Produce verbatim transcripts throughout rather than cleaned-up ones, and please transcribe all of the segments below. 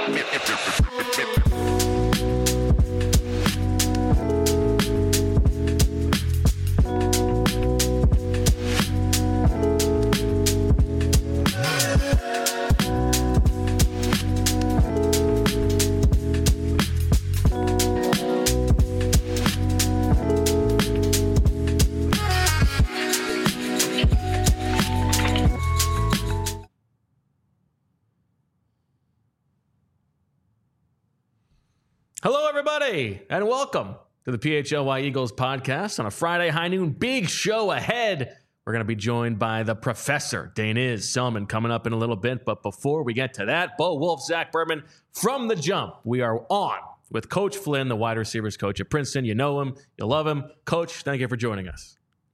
Hello, everybody, and welcome to the P H L Y Eagles podcast on a Friday high noon. Big show ahead. We're going to be joined by the professor, Daniz Selman, coming up in a little bit. But before we get to that, Bo Wolf, Zach Berman, from the jump, we are on with Coach Flynn, the wide receivers coach at Princeton. You know him. You love him. Coach, thank you for joining us.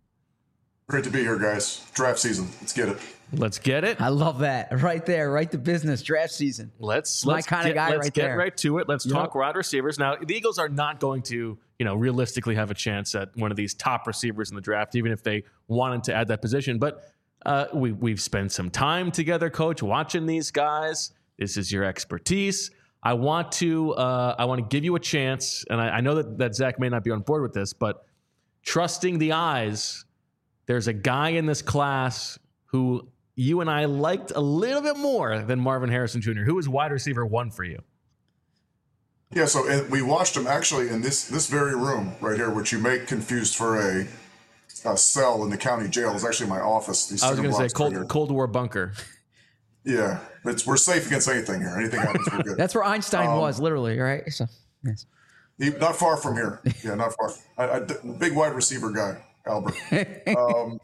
Great to be here, guys. Draft season. Let's get it. Let's get it. I love that. Right there. Right to business. Draft season. Let's, My let's kind get, of guy let's right get there. right to it. Let's Yep. talk wide receivers. Now, the Eagles are not going to, you know, realistically have a chance at one of these top receivers in the draft, even if they wanted to add that position. But uh, we, we've spent some time together, Coach, watching these guys. This is your expertise. I want to uh, I want to give you a chance, and I, I know that, that Zach may not be on board with this, but trusting the eyes, there's a guy in this class who you and I liked a little bit more than Marvin Harrison Junior Who was wide receiver one for you? Yeah, so and we watched him actually in this this very room right here, which you may confused for a, a cell in the county jail. It's actually my office. These I was going to say Cold, right Cold War bunker. Yeah, it's, we're safe against anything here. Anything happens, we're good. That's where Einstein Um, was, literally, right? So, yes. He, not far from here. Yeah, not far. I, I, big wide receiver guy, Albert. Um,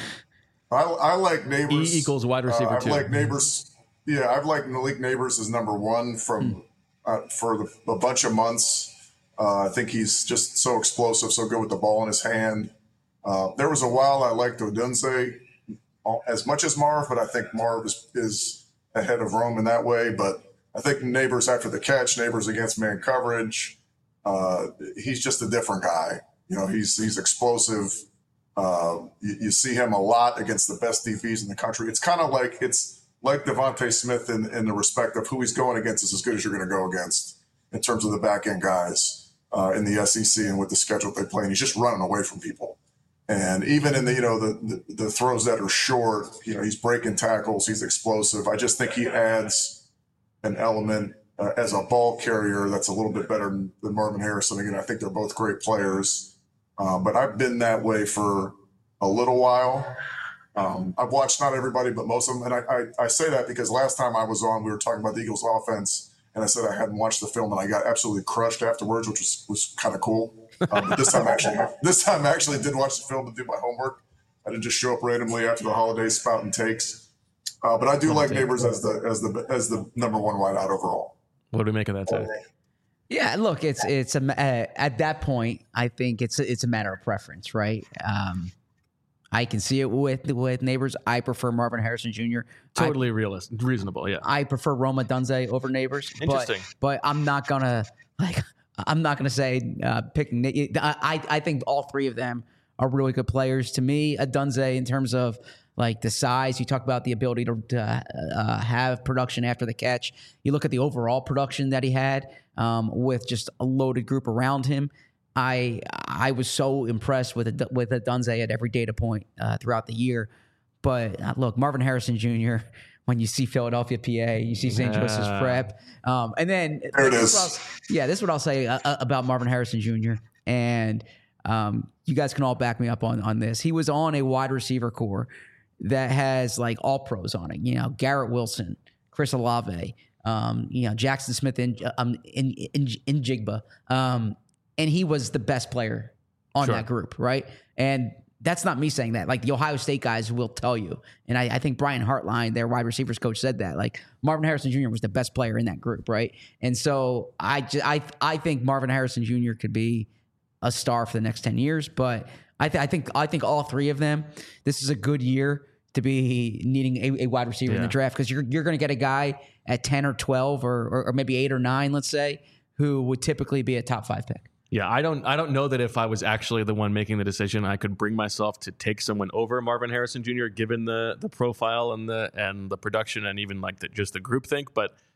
I, I like Neighbors. E equals wide receiver uh, I two. like Neighbors. Yeah, I've liked Malik Neighbors as number one from uh, for the, a bunch of months. Uh, I think he's just so explosive, so good with the ball in his hand. Uh, there was a while I liked Odunze as much as Marv, but I think Marv is, is ahead of Rome in that way. But I think Neighbors after the catch, Neighbors against man coverage. Uh, he's just a different guy. You know, he's he's explosive. Uh, you, you see him a lot against the best D Bs in the country. It's kind of like it's like Devontae Smith in, in the respect of who he's going against is as good as you're going to go against in terms of the back end guys uh, in the S E C and with the schedule they play. And he's just running away from people. And even in the, you know, the, the, the throws that are short, you know, he's breaking tackles. He's explosive. I just think he adds an element uh, as a ball carrier that's a little bit better than, than Marvin Harrison. Again, I think they're both great players. Uh, but I've been that way for a little while. Um, I've watched not everybody, but most of them. And I, I, I say that because last time I was on, we were talking about the Eagles offense. And I said I hadn't watched the film, and I got absolutely crushed afterwards, which was, was kind of cool. Um, but this time, actually, this time I actually did watch the film and do my homework. I didn't just show up randomly after the holidays spouting takes. Uh, but I do like Neighbors as the as the as the number one wideout overall. What do we make of that, Zach? Yeah, look, it's it's a uh, at that point, I think it's a, it's a matter of preference, right? Um, I can see it with with Neighbors. I prefer Marvin Harrison Junior Totally realistic, reasonable, yeah. I prefer Rome Odunze over Neighbors. Interesting. But, but I'm not gonna like I'm not gonna say uh, picking. I I think all three of them are really good players. To me, Odunze in terms of like the size, you talk about the ability to, to uh, have production after the catch. You look at the overall production that he had um, with just a loaded group around him. I I was so impressed with with Odunze at every data point uh, throughout the year. But uh, look, Marvin Harrison Junior, when you see Philadelphia, P A, you see Saint Yeah. Joseph's Prep. Um, and then, There it this is. what I'll- yeah, this is what I'll say uh, uh, about Marvin Harrison Junior And um, you guys can all back me up on, on this. He was on a wide receiver core that has like all pros on it. You know, Garrett Wilson, Chris Olave, um, you know, Jackson Smith in, um, in, in, in Jigba. Um, and he was the best player on Sure. that group, right? And that's not me saying that. Like the Ohio State guys will tell you. And I, I think Brian Hartline, their wide receivers coach, said that. Like Marvin Harrison Junior was the best player in that group, right? And so I, ju- I, I think Marvin Harrison Junior could be a star for the next ten years. But I, th- I think I think all three of them, this is a good year to be needing a, a wide receiver in Yeah. the draft because you're you're going to get a guy at ten or twelve or, or or maybe eight or nine, let's say, who would typically be a top five pick. Yeah, I don't I don't know that if I was actually the one making the decision, I could bring myself to take someone over Marvin Harrison Junior given the the profile and the and the production and even like the, just the group think. But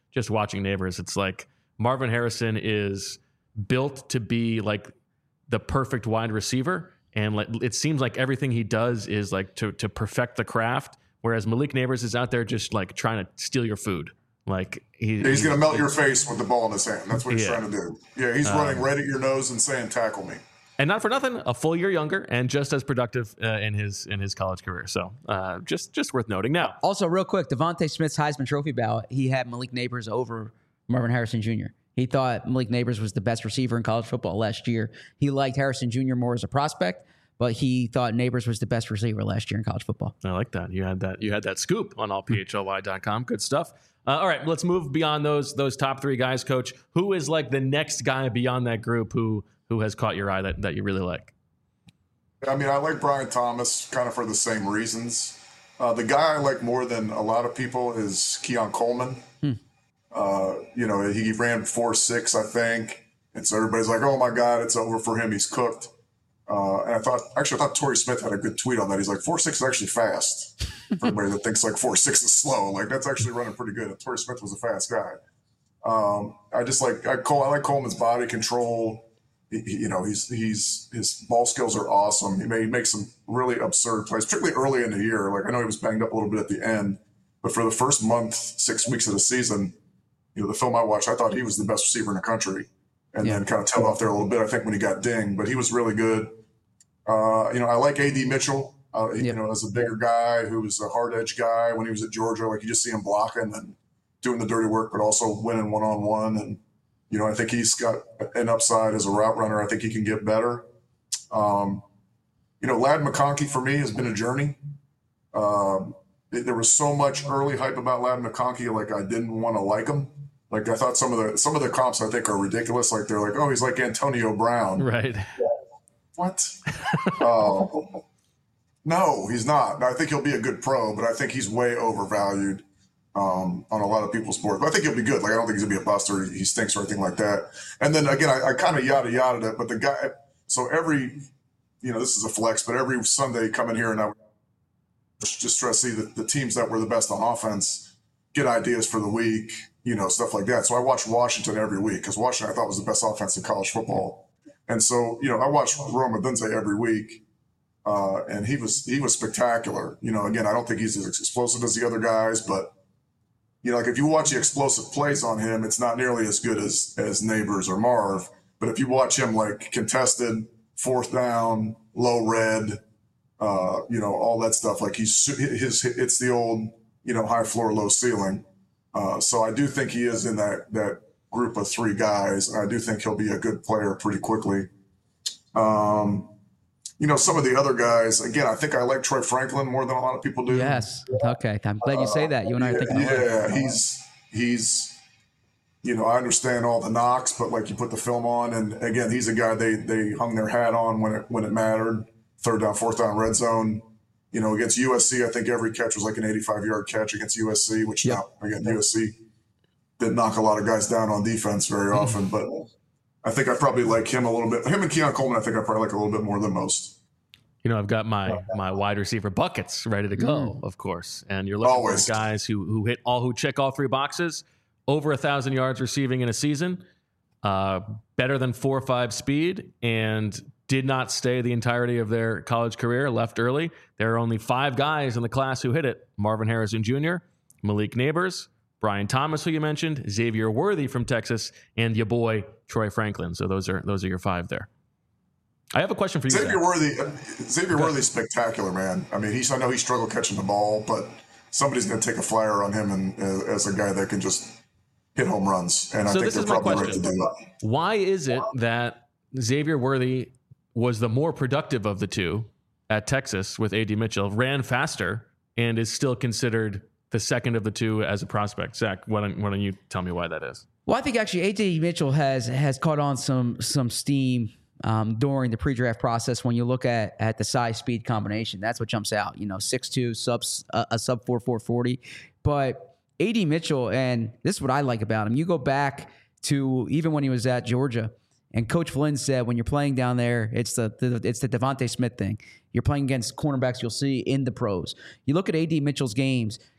just watching Neighbors, it's like Marvin Harrison is built to be like the perfect wide receiver. And like, it seems like everything he does is like to, to perfect the craft. Whereas Malik Neighbors is out there just like trying to steal your food. Like he, yeah, he's going to melt your face with the ball in his hand. That's what he's yeah. trying to do. Yeah, he's um, running right at your nose and saying, "Tackle me." And not for nothing, a full year younger and just as productive uh, in his in his college career. So uh, just just worth noting. Now, also real quick, Devontae Smith's Heisman Trophy ballot, he had Malik Neighbors over Marvin Harrison Junior He thought Malik Neighbors was the best receiver in college football last year. He liked Harrison Junior more as a prospect, but he thought Neighbors was the best receiver last year in college football. I like that. You had that. You had that scoop on all P H L Y dot com. Good stuff. Uh, all right, let's move beyond those those top three guys, Coach. Who is like the next guy beyond that group who who has caught your eye that, that you really like? I mean, I like Brian Thomas kind of for the same reasons. Uh, the guy I like more than a lot of people is Keon Coleman. Hmm. Uh, you know, he ran four six, I think. And so everybody's like, oh, my God, it's over for him. He's cooked. Uh, and I thought, actually, I thought Torrey Smith had a good tweet on that. He's like, four six is actually fast. For anybody that thinks like four six is slow, like that's actually running pretty good. And Torrey Smith was a fast guy. Um, I just like I, Cole, I like Coleman's body control. He, he, you know, he's he's his ball skills are awesome. He may make some really absurd plays, particularly early in the year. Like I know he was banged up a little bit at the end, but for the first month, six weeks of the season, you know, the film I watched, I thought he was the best receiver in the country, and yeah. then kind of tailed off there a little bit. I think when he got dinged, but he was really good. Uh, you know, I like A D Mitchell. Uh, yep. You know, as a bigger guy who was a hard edge guy when he was at Georgia, like you just see him blocking and doing the dirty work, but also winning one on one. And you know, I think he's got an upside as a route runner. I think he can get better. Um, you know, Ladd McConkey for me has been a journey. Um, it, there was so much early hype about Ladd McConkey, like I didn't want to like him. Like I thought some of the some of the comps I think are ridiculous. Like they're like, oh, he's like Antonio Brown, right? What? uh, no, he's not. I think he'll be a good pro, but I think he's way overvalued um, on a lot of people's boards. But I think he'll be good. Like I don't think he's gonna be a bust or he stinks or anything like that. And then again, I, I kind of yada yada it, but the guy. So every, you know, this is a flex, but every Sunday come in here and I just try to see the, the teams that were the best on offense, get ideas for the week, you know, stuff like that. So I watch Washington every week because Washington I thought was the best offense in college football. And so, you know, I watch Rome Odunze every week, uh, and he was he was spectacular. You know, again, I don't think he's as explosive as the other guys, but, you know, like if you watch the explosive plays on him, it's not nearly as good as as Neighbors or Marv. But if you watch him like contested, fourth down, low red, uh, you know, all that stuff, like he's his it's the old, you know, high floor, low ceiling. Uh, so I do think he is in that that. group of three guys. I do think he'll be a good player pretty quickly. Um, you know, some of the other guys, again, I think I like Troy Franklin more than a lot of people do. Yes. Okay. I'm glad you say that. You and I uh, are thinking Yeah, yeah he's, he's, you know, I understand all the knocks, but like you put the film on and again, he's a guy they, they hung their hat on when it, when it mattered. Third down, fourth down, red zone. You know, against U S C, I think every catch was like an eighty-five yard catch against U S C, which yep. now, again, U S C didn't knock a lot of guys down on defense very often, but I think I probably like him a little bit. Him and Keon Coleman, I think I probably like a little bit more than most. You know, I've got my my wide receiver buckets ready to go, mm. of course. And you're looking Always. for guys who who hit all who check all three boxes, over a thousand yards receiving in a season, uh, better than four or five speed, and did not stay the entirety of their college career, left early. There are only five guys in the class who hit it: Marvin Harrison Junior, Malik Neighbors, Brian Thomas, who you mentioned, Xavier Worthy from Texas, and your boy Troy Franklin. So those are those are your five there. I have a question for you. Xavier Worthy, Xavier okay. Worthy's spectacular, man. I mean, he's I know he struggled catching the ball, but somebody's going to take a flyer on him and uh, as a guy that can just hit home runs. And I so think they're probably ready to do that. Why is it that Xavier Worthy was the more productive of the two at Texas with A D Mitchell, ran faster, and is still considered the second of the two as a prospect? Zach, why don't, why don't you tell me why that is? Well, I think actually A D Mitchell has has caught on some some steam um, during the pre-draft process. When you look at at the size speed combination, that's what jumps out. You know, six two, subs uh, a sub four four forty. But A D Mitchell, and this is what I like about him. You go back to even when he was at Georgia, and Coach Flynn said, when you're playing down there, it's the, the it's the Devontae Smith thing. You're playing against cornerbacks you'll see in the pros. You look at A D Mitchell's games.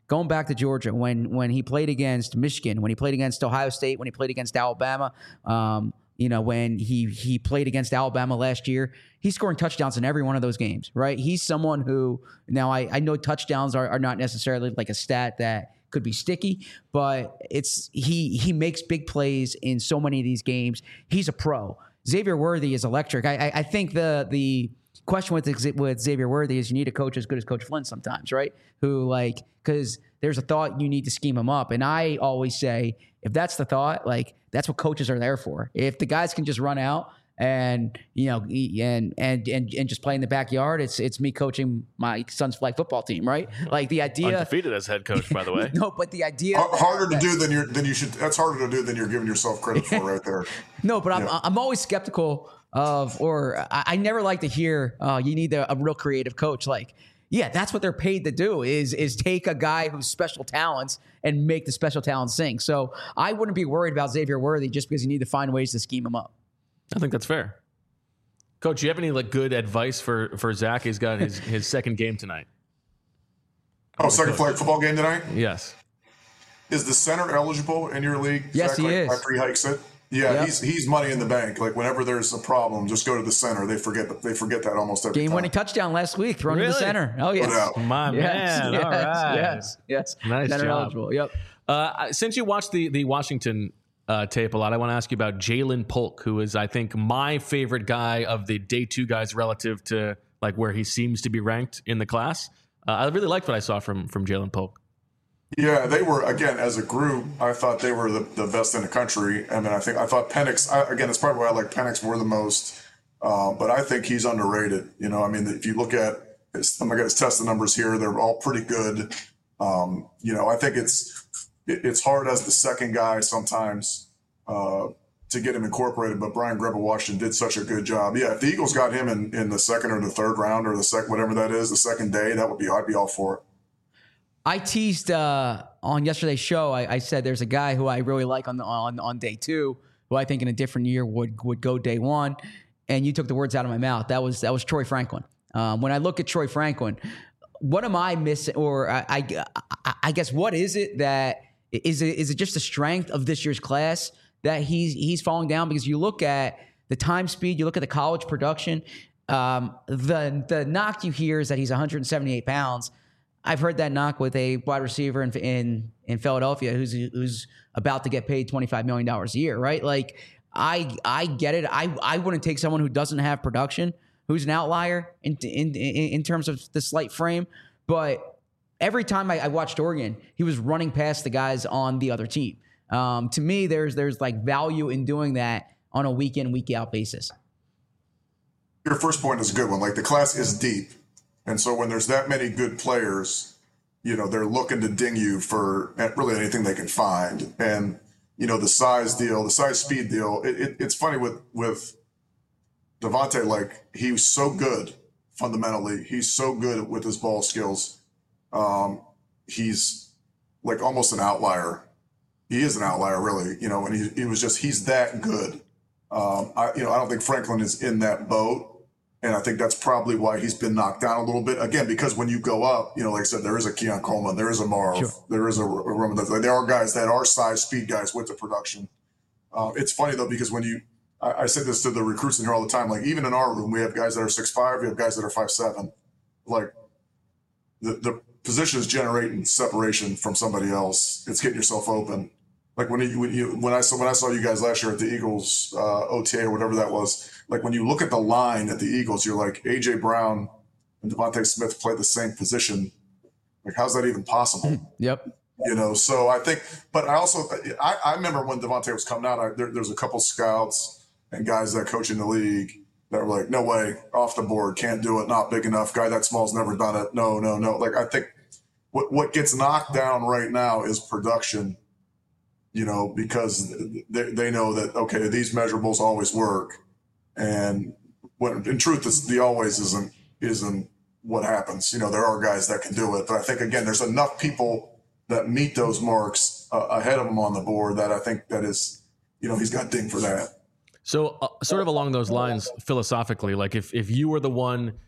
going back to Georgia, when when he played against Michigan, when he played against Ohio State, when he played against Alabama, um, you know, when he he played against Alabama last year, he's scoring touchdowns in every one of those games, right? He's someone who, now I, I know touchdowns are, are not necessarily like a stat that could be sticky, but it's he he makes big plays in so many of these games. He's a pro. Xavier Worthy is electric. I I, I think the the question with with Xavier Worthy is you need a coach as good as Coach Flynn sometimes, right? Who like, because there's a thought you need to scheme him up, and I always say if that's the thought, like that's what coaches are there for. If the guys can just run out and you know and and and and just play in the backyard, it's it's me coaching my son's flag football team, right? Like the idea undefeated as head coach, by the way. No, but the idea H- harder that, to do than you're than you should. That's harder to do than you're giving yourself credit for, right there. No, but I'm Yeah. I'm always skeptical of, or I, I never like to hear uh, you need a, a real creative coach. Like, yeah, that's what they're paid to do is is take a guy who's special talents and make the special talents sing. So I wouldn't be worried about Xavier Worthy just because you need to find ways to scheme him up. I think that's fair. Coach, do you have any like good advice for for Zach? He's got his, his second game tonight. Oh, second flag football game tonight? Yes. Is the center eligible in your league? Yes, Zach, he like, is. After he hikes it? Yeah, Yep. he's he's money in the bank. Like whenever there's a problem, just go to the center. They forget that they forget that almost every Game time. winning touchdown last week, thrown to the Really? center. Oh yes, doubt. My yes, man. yes, All right. yes, yes. Nice Center job. eligible. Yep. Uh, since you watched the the Washington uh, tape a lot, I want to ask you about Jalen Polk, who is, I think, my favorite guy of the day two guys relative to like where he seems to be ranked in the class. Uh, I really liked what I saw from from Jalen Polk. Yeah, they were, again, as a group, I thought they were the, the best in the country. I mean, I think I thought Penix, I, again, it's probably why I like Penix more the most, uh, but I think he's underrated. You know, I mean, if you look at his, I'm going to get his testing numbers here, they're all pretty good. Um, you know, I think it's it, it's hard as the second guy sometimes uh, to get him incorporated, but Brian Greb of Washington did such a good job. Yeah, if the Eagles got him in, in the second or the third round or the second, whatever that is, the second day, that would be, I'd be all for it. I teased uh, on yesterday's show. I, I said there's a guy who I really like on the, on on day two, who I think in a different year would would go day one, and you took the words out of my mouth. That was that was Troy Franklin. Um, when I look at Troy Franklin, what am I missing? Or I, I I guess what is it that is it is it just the strength of this year's class that he's he's falling down? Because you look at the time speed, you look at the college production. Um, the the knock you hear is that he's one hundred seventy-eight pounds. I've heard that knock with a wide receiver in in, in Philadelphia who's who's about to get paid twenty-five million dollars a year, right? Like, I I get it. I, I wouldn't take someone who doesn't have production, who's an outlier in in, in, in terms of the slight frame. But every time I, I watched Oregon, he was running past the guys on the other team. Um, to me, there's there's like value in doing that on a week in, week out basis. Your first point is a good one. Like, the class is deep. And so when there's that many good players, you know, they're looking to ding you for really anything they can find. And, you know, the size deal, the size speed deal, it, it, it's funny with, with Devontae, like, he was so good fundamentally. He's so good with his ball skills. Um, he's like almost an outlier. He is an outlier, really, you know, and he, he was just, he's that good. Um, I, you know, I don't think Franklin is in that boat. And I think that's probably why he's been knocked down a little bit. Again, because when you go up, you know, like I said, there is a Keon Coleman, there is a Marv, sure. there is a, a Roman. Like, there are guys that are size, speed guys with the production. Uh, it's funny, though, because when you – I say this to the recruits in here all the time. Like, even in our room, we have guys that are six five, we have guys that are five seven. Like, the, the position is generating separation from somebody else. It's getting yourself open. Like, when you, when you when I saw when I saw you guys last year at the Eagles uh, O T A or whatever that was, like, when you look at the line at the Eagles, you're like, A J Brown and Devontae Smith play the same position. Like, how's that even possible? Yep. You know, so I think, but I also, I, I remember when Devontae was coming out, I, there, there was a couple scouts and guys that coach in the league that were like, no way, off the board, can't do it, not big enough, guy that small's never done it. No, no, no. Like, I think what what gets knocked down right now is production. You know, because they, they know that, okay, these measurables always work. And what in truth, it's, the always isn't isn't what happens. You know, there are guys that can do it. But I think, again, there's enough people that meet those marks uh, ahead of him on the board that I think that is, you know, he's got ding for that. So uh, sort of along those lines, philosophically, like if, if you were the one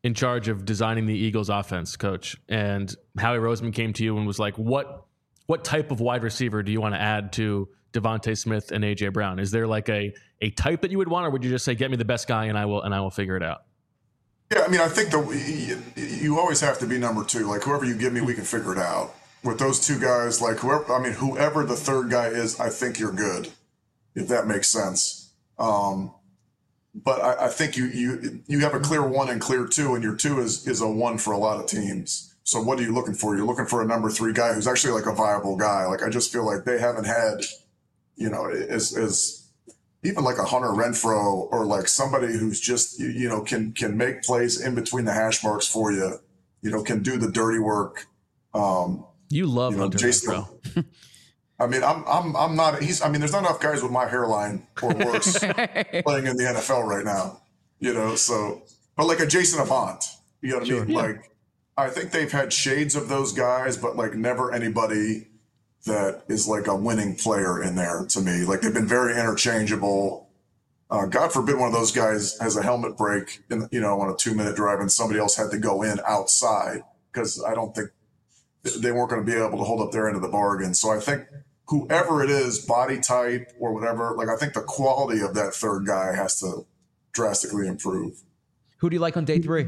in charge of designing the Eagles offense, coach, and Howie Roseman came to you and was like, what what type of wide receiver do you want to add to Devontae Smith and A J Brown? Is there like a a type that you would want, or would you just say, get me the best guy and I will and I will figure it out? Yeah, I mean, I think the you always have to be number two. Like, whoever you give me, we can figure it out. With those two guys, like whoever, I mean, whoever the third guy is, I think you're good, if that makes sense. Um, but I, I think you you you have a clear one and clear two, and your two is is a one for a lot of teams. So what are you looking for? You're looking for a number three guy who's actually like a viable guy. Like, I just feel like they haven't had, you know, as as even like a Hunter Renfrow or like somebody who's just, you, you know, can can make plays in between the hash marks for you, you know, can do the dirty work. Um, you love you know, Hunter Jason, Renfrow. I mean, I'm I'm I'm not. He's. I mean, there's not enough guys with my hairline or worse playing in the N F L right now. You know, so but like a Jason Avant, you know what sure, I mean? Yeah. Like, I think they've had shades of those guys, but like never anybody that is like a winning player in there to me. Like, they've been very interchangeable. Uh, God forbid one of those guys has a helmet break in, you know, on a two minute drive and somebody else had to go in outside, because I don't think they weren't going to be able to hold up their end of the bargain. So I think whoever it is, body type or whatever, like, I think the quality of that third guy has to drastically improve. Who do you like on day three?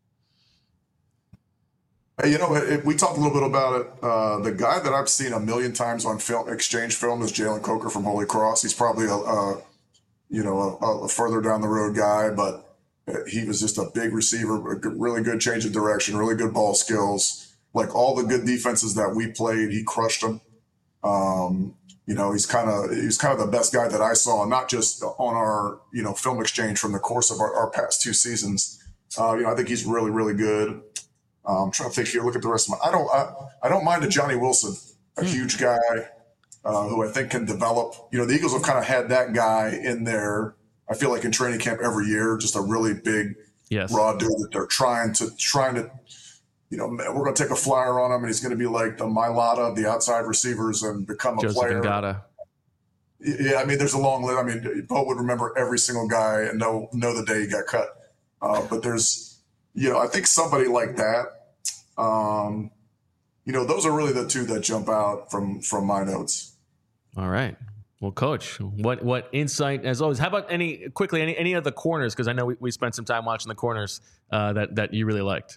You know, it, we talked a little bit about it. Uh, the guy that I've seen a million times on film, exchange film is Jalen Coker from Holy Cross. He's probably a, a you know, a, a further down the road guy, but he was just a big receiver, a good, really good change of direction, really good ball skills. Like, all the good defenses that we played, he crushed them. Um, you know, he's kind of he's kind of the best guy that I saw, not just on our, you know, film exchange from the course of our, our past two seasons. Uh, you know, I think he's really, really good. Um, I'm trying to think here. Look at the rest of my. I don't. I, I don't mind a Johnny Wilson, a huge guy uh, who I think can develop. You know, the Eagles have kind of had that guy in there. I feel like in training camp every year, just a really big, yes. raw dude that they're trying to trying to. You know, we're going to take a flyer on him, and he's going to be like the Mailata of the outside receivers and become a Joseph player. Ngata. Yeah, I mean, there's a long list. I mean, Bo would remember every single guy and know know the day he got cut. Uh, but there's. You know, I think somebody like that, um, you know, those are really the two that jump out from from my notes. All right. Well, Coach, what what insight, as always. How about any, quickly, any, any of the corners? Because I know we, we spent some time watching the corners uh, that, that you really liked.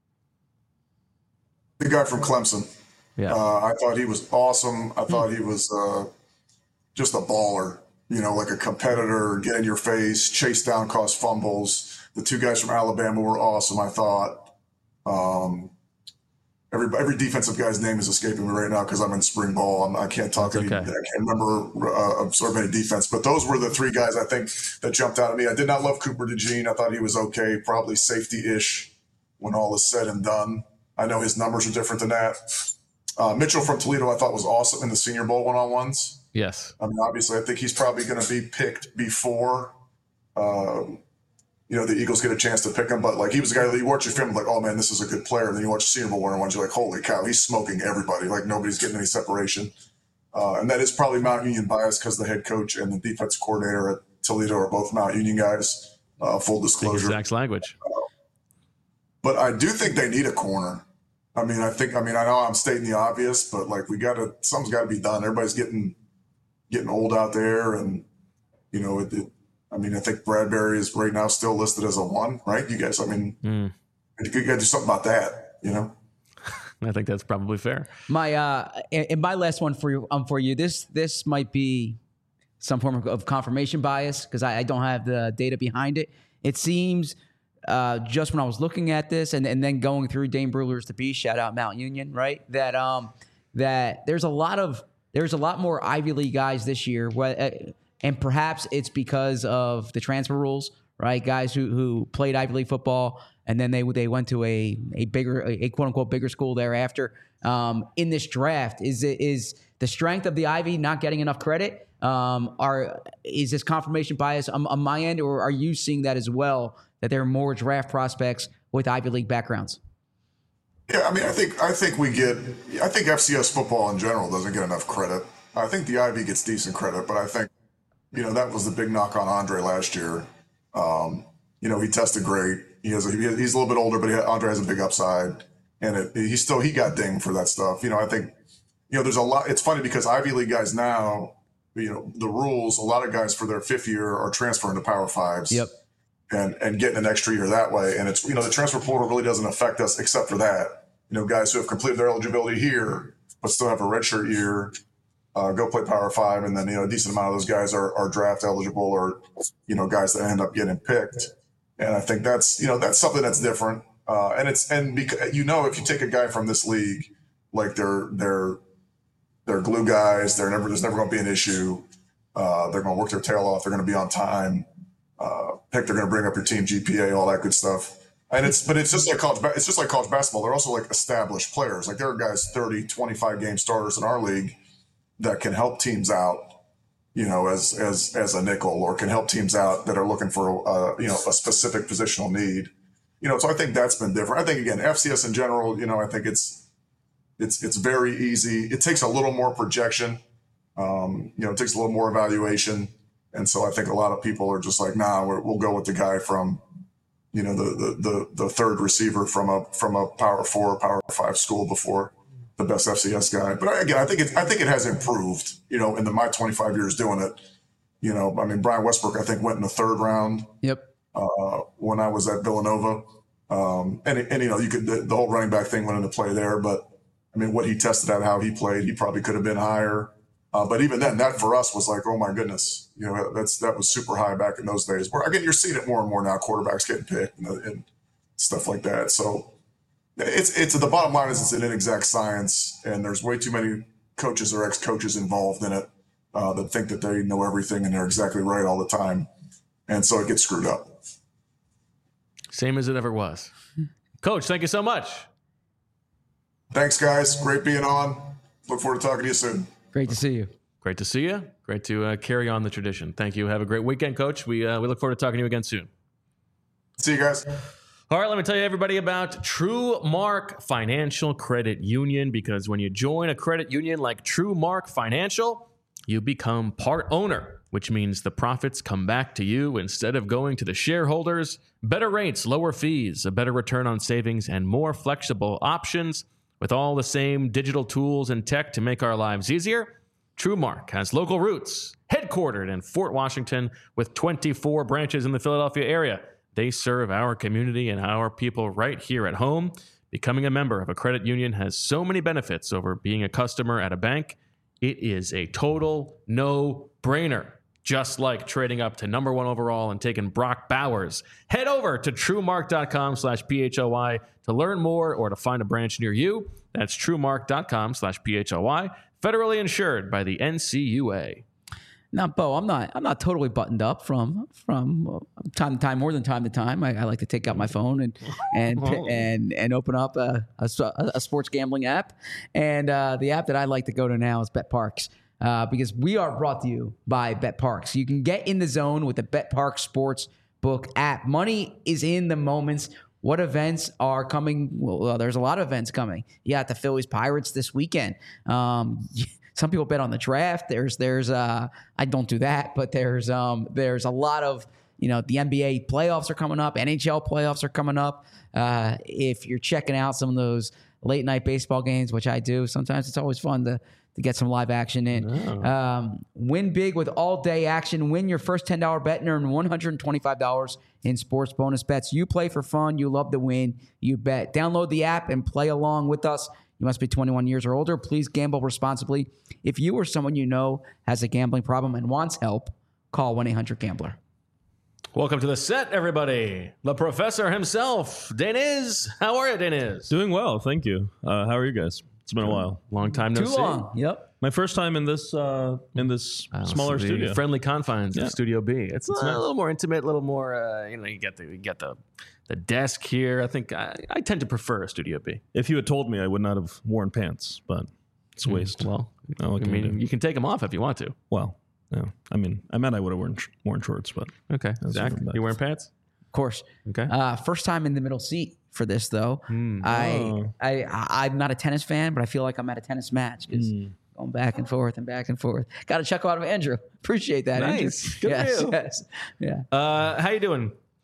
The guy from Clemson. Yeah. Uh, I thought he was awesome. I thought he was uh, just a baller, you know, like a competitor, get in your face, chase down, cause fumbles. The two guys from Alabama were awesome, I thought. Um, every every defensive guy's name is escaping me right now because I'm in spring ball. I'm, I can't talk. Any, okay. I can't remember uh, absorb any defense. But those were the three guys I think that jumped out at me. I did not love Cooper DeJean. I thought he was okay, probably safety-ish when all is said and done. I know his numbers are different than that. Uh, Mitchell from Toledo I thought was awesome in the Senior Bowl one-on-ones. Yes. I mean, obviously, I think he's probably going to be picked before um, – you know, the Eagles get a chance to pick him, but like, he was a guy that you watch your film, like, oh man, this is a good player. And then you watch the Senior Bowl one-on-ones, you're like, holy cow, he's smoking everybody. Like, nobody's getting any separation. Uh, and that is probably Mount Union bias because the head coach and the defensive coordinator at Toledo are both Mount Union guys. Uh, full disclosure. Zach's language. Uh, but I do think they need a corner. I mean, I think, I mean, I know I'm stating the obvious, but like, we got to, something's got to be done. Everybody's getting, getting old out there, and, you know, it, it I mean, I think Bradbury is right now still listed as a one, right? You guys, I mean, mm. you got to do something about that, you know? I think that's probably fair. My uh, and my last one for you, um, for you. This this might be some form of, of confirmation bias because I, I don't have the data behind it. It seems uh, just when I was looking at this and, and then going through Dane Brugler's The Beast, shout out Mount Union, right? That um that there's a lot of there's a lot more Ivy League guys this year. Where, uh, And perhaps it's because of the transfer rules, right? Guys who who played Ivy League football and then they they went to a a bigger a quote unquote bigger school thereafter. Um, in this draft, is it is the strength of the Ivy not getting enough credit? Um, are is this confirmation bias on, on my end, or are you seeing that as well? That there are more draft prospects with Ivy League backgrounds? Yeah, I mean, I think I think we get. I think F C S football in general doesn't get enough credit. I think the Ivy gets decent credit, but I think. You know, that was the big knock on Andre last year. Um, you know, he tested great. He has a, he's a little bit older, but he, Andre has a big upside, and it, he still he got dinged for that stuff. You know, I think you know there's a lot. It's funny because Ivy League guys now, you know, the rules. A lot of guys for their fifth year are transferring to Power Fives. Yep. And and getting an extra year that way, and it's you know the transfer portal really doesn't affect us except for that. You know, guys who have completed their eligibility here but still have a redshirt year. Uh, go play Power Five, and then you know a decent amount of those guys are, are draft eligible, or you know guys that end up getting picked. And I think that's you know that's something that's different. Uh, and it's and because you know if you take a guy from this league, like they're they're they're glue guys, they're never there's never going to be an issue. Uh, they're going to work their tail off. They're going to be on time. Uh, pick they're going to bring up your team G P A, all that good stuff. And it's but it's just like college. It's just like college basketball. They're also like established players. Like there are guys thirty, twenty-five game starters in our league that can help teams out, you know, as as as a nickel, or can help teams out that are looking for a, you know a specific positional need, you know. So I think that's been different. I think again, F C S in general, you know, I think it's it's it's very easy. It takes a little more projection, um, you know, it takes a little more evaluation, and so I think a lot of people are just like, nah, we're, we'll go with the guy from, you know, the the the, the third receiver from a from a Power Four, Power Five school before the best F C S guy. But again, I think it, I think it has improved, you know, in the, my twenty-five years doing it. You know, I mean, Brian Westbrook, I think, went in the third round. Yep. Uh, when I was at Villanova. Um, and, and, you know, you could, the, the whole running back thing went into play there. But, I mean, what he tested out, how he played, he probably could have been higher. Uh, but even then, that for us was like, oh, my goodness. You know, that's that was super high back in those days. Where, again, you're seeing it more and more now, quarterbacks getting picked and, and stuff like that. So, It's it's the bottom line is it's an inexact science, and there's way too many coaches or ex-coaches involved in it uh, that think that they know everything and they're exactly right all the time, and so it gets screwed up. Same as it ever was. Coach, thank you so much. Thanks, guys. Great being on. Look forward to talking to you soon. Great to see you. Great to see you. Great to uh, carry on the tradition. Thank you. Have a great weekend, Coach. We uh, we look forward to talking to you again soon. See you guys. All right, let me tell you, everybody, about TrueMark Financial Credit Union, because when you join a credit union like TrueMark Financial, you become part owner, which means the profits come back to you instead of going to the shareholders. Better rates, lower fees, a better return on savings, and more flexible options with all the same digital tools and tech to make our lives easier. TrueMark has local roots, headquartered in Fort Washington with twenty-four branches in the Philadelphia area. They serve our community and our people right here at home. Becoming a member of a credit union has so many benefits over being a customer at a bank. It is a total no-brainer. Just like trading up to number one overall and taking Brock Bowers. Head over to TrueMark.com slash P-H-O-Y to learn more or to find a branch near you. That's TrueMark.com slash P-H-O-Y. Federally insured by the N C U A. Now, Bo, I'm not. I'm not totally buttoned up from from uh, time to time, more than time to time. I, I like to take out my phone and and and and open up a, a, a sports gambling app. And uh, the app that I like to go to now is BetParks, uh, because we are brought to you by BetParks. You can get in the zone with the BetParks sports book app. Money is in the moments. What events are coming? Well, there's a lot of events coming. You got the Phillies Pirates this weekend. Um, Some people bet on the draft. There's, there's, uh, I don't do that, but there's, um, there's a lot of, you know, the N B A playoffs are coming up, N H L playoffs are coming up. Uh, if you're checking out some of those late night baseball games, which I do, sometimes it's always fun to to get some live action in. Oh. Um, win big with all day action. Win your first ten dollars bet and earn one hundred twenty-five dollars in sports bonus bets. You play for fun. You love to win. You bet. Download the app and play along with us. You must be twenty-one years or older. Please gamble responsibly. If you or someone you know has a gambling problem and wants help, call one eight hundred gambler. Welcome to the set, everybody. The professor himself, Deniz. How are you, Deniz? Doing well, thank you. Uh, how are you guys? It's been a while. Long time no Too see. long. Yep. My first time in this uh, in this Uh, smaller so the studio. friendly confines Yeah. of Studio B. It's, It's a nice. little more intimate, a little more. Uh, you know, you get the you get the the desk here. I think I, I tend to prefer Studio B. If you had told me, I would not have worn pants, but it's a waste. Well, Oh, what I can you mean, do? you can take them off if you want to. Well, yeah. I mean, I meant I would have worn sh- worn shorts, but Okay, Zach, different, but- you wearing pants? Of course. Okay. Uh, first time in the middle seat for this, though. I, Oh. I, I, I'm not a tennis fan, but I feel like I'm at a tennis match because going back and forth and back and forth. Got a chuckle out of Andrew. Appreciate that, Nice. Andrew. Good for yes, you. yes. Yeah. Uh, how you doing,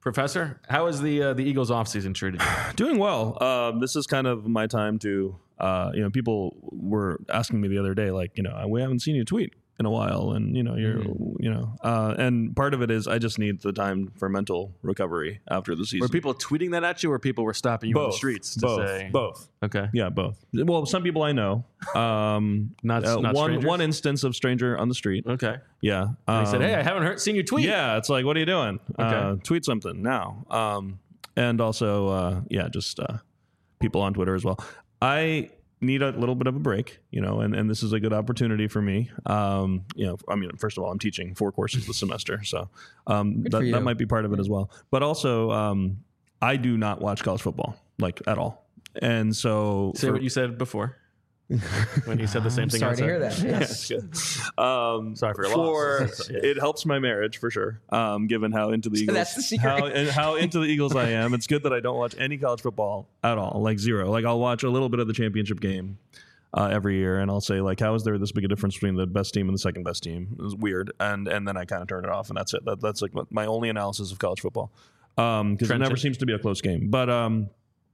Professor, how is the uh, the Eagles offseason treated you? Doing well. Um, this is kind of my time to, uh, you know, people were asking me the other day, like, you know, we haven't seen you tweet in a while, and you know you're mm. you know uh and part of it is I just need the time for mental recovery after the season. Were people tweeting that at you, or people were stopping you both. on the streets to both say both okay yeah both well, some people I know, um not, uh, not one strangers? one instance of stranger on the street. Okay. Yeah. Um, he said, hey, I um, haven't heard seen you tweet. Yeah, it's like, what are you doing? Okay. Uh tweet something now. Um and also uh yeah just uh people on Twitter as well. I need a little bit of a break, you know, and, and this is a good opportunity for me. Um, you know, I mean, first of all, I'm teaching four courses this semester, so um, that, that might be part of it as well. But also, um, I do not watch college football, like, at all. And so... Say for, what you said before. When you said the same I'm thing. Sorry I to said. hear that. Yes. Yeah, um, sorry for your for, loss. Yeah. It helps my marriage for sure. Um, given how into the So Eagles, that's the secret. how, and how into the Eagles I am. It's good that I don't watch any college football at all, like zero. Like I'll watch a little bit of the championship game uh, every year, and I'll say like, how is there this big a difference between the best team and the second best team? It was weird, and and then I kind of turn it off, and that's it. That, that's like my only analysis of college football, because um, it never seems to be a close game. But um,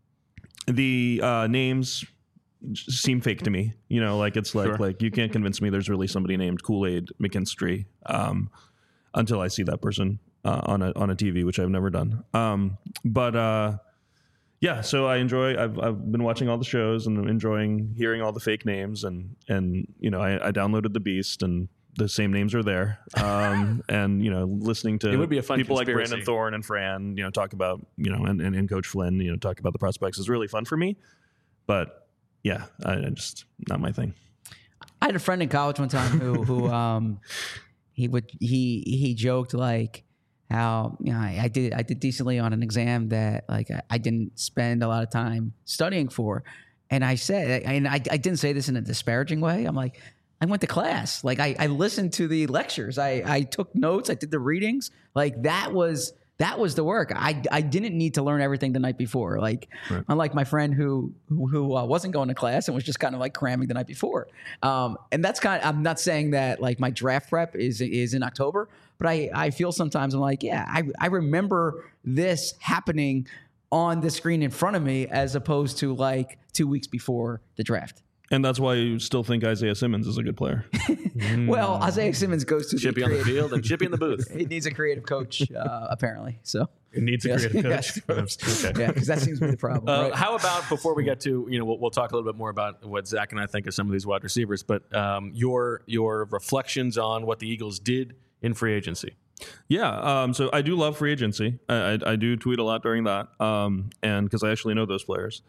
the uh, names seem fake to me, you know, like it's like Sure. like you can't convince me there's really somebody named Kool-Aid McKinstry um, until I see that person uh, on a on a T V, which I've never done. Um, but uh, yeah, so I enjoy. I've I've been watching all the shows and I'm enjoying hearing all the fake names, and and you know I, I downloaded The Beast, and the same names are there. Um, and you know listening to It would be a fun people conspiracy. like Brandon Thorne and Fran, you know, talk about you know and, and, and Coach Flynn, you know, talk about the prospects is really fun for me, but. Yeah, I, I just not my thing. I had a friend in college one time who who um he would he he joked like how you know I, I did I did decently on an exam that like I, I didn't spend a lot of time studying for, and I said and I I didn't say this in a disparaging way. I'm like, I went to class, like I I listened to the lectures, I I took notes, I did the readings, like that was. That was the work. I, I didn't need to learn everything the night before. Like, right. Unlike my friend who who, who uh, wasn't going to class and was just kind of like cramming the night before. Um, and that's kind of, I'm not saying that like my draft prep is is in October, but I, I feel sometimes I'm like, yeah, I, I remember this happening on the screen in front of me as opposed to like two weeks before the draft. And that's why you still think Isaiah Simmons is a good player. Well, Isaiah Simmons goes to Chippy the on the field and Chippy in the booth. He needs a creative coach, uh, apparently. So it needs a yes, creative coach. yes. Okay. Yeah, because that seems to be the problem. Uh, right? How about before we get to you know we'll, we'll talk a little bit more about what Zach and I think of some of these wide receivers, but um, your your reflections on what the Eagles did in free agency. Yeah, um, so I do love free agency. I, I, I do tweet a lot during that, um, and because I actually know those players.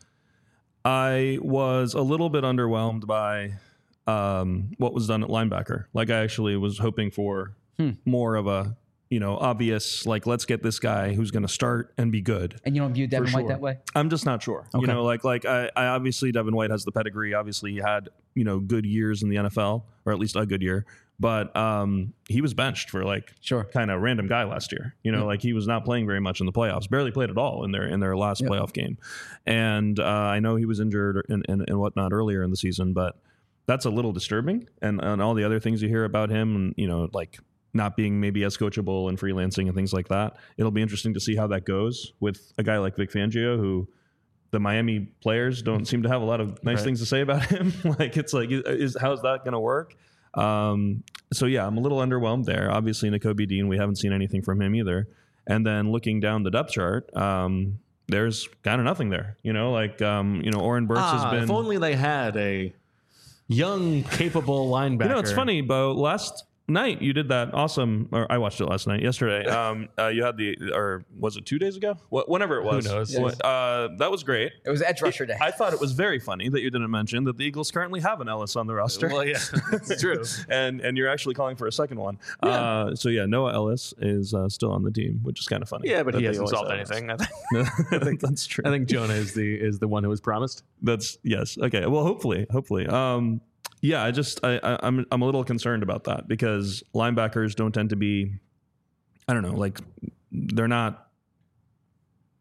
I was a little bit underwhelmed by um, what was done at linebacker. Like I actually was hoping for hmm. more of a, you know, obvious, like, let's get this guy who's going to start and be good. And you don't view Devin sure. White that way? I'm just not sure. Okay. You know, like, like I, I obviously Devin White has the pedigree. Obviously he had, you know, good years in the N F L, or at least a good year. But um, he was benched for like sure. kind of random guy last year. You know, yeah. like he was not playing very much in the playoffs, barely played at all in their in their last yeah. playoff game. And uh, I know he was injured and, and, and whatnot earlier in the season, but that's a little disturbing. And, and all the other things you hear about him, and, you know, like not being maybe as coachable and freelancing and things like that. It'll be interesting to see how that goes with a guy like Vic Fangio, who the Miami players don't seem to have a lot of nice right. things to say about him. Like, it's like, is how's that going to work? Um, so yeah, I'm a little underwhelmed there. Obviously, Nakobe Dean, we haven't seen anything from him either. And then looking down the depth chart, um, there's kind of nothing there. You know, like um, you know, Oren Burks ah, has been. If only they had a young, capable linebacker. You know, it's funny, Bo. Last night you did that awesome, or I watched it last night, yesterday. Um, uh, you had the, or was it two days ago? Wh- whenever it was. Who knows? Yes. Uh, that was great. It was Edge Rusher Day. I thought it was very funny that you didn't mention that the Eagles currently have an Ellis on the roster. Well, yeah, it's true. and and you're actually calling for a second one. Yeah. Uh, so yeah, Noah Ellis is uh, still on the team, which is kind of funny. Yeah, but he they hasn't always solved have anything. I us. think, I think that's true. I think Jonah is the is the one who was promised. That's yes. Okay. Well, hopefully, hopefully. Um, yeah, I just I, I I'm I'm a little concerned about that because linebackers don't tend to be, I don't know, like they're not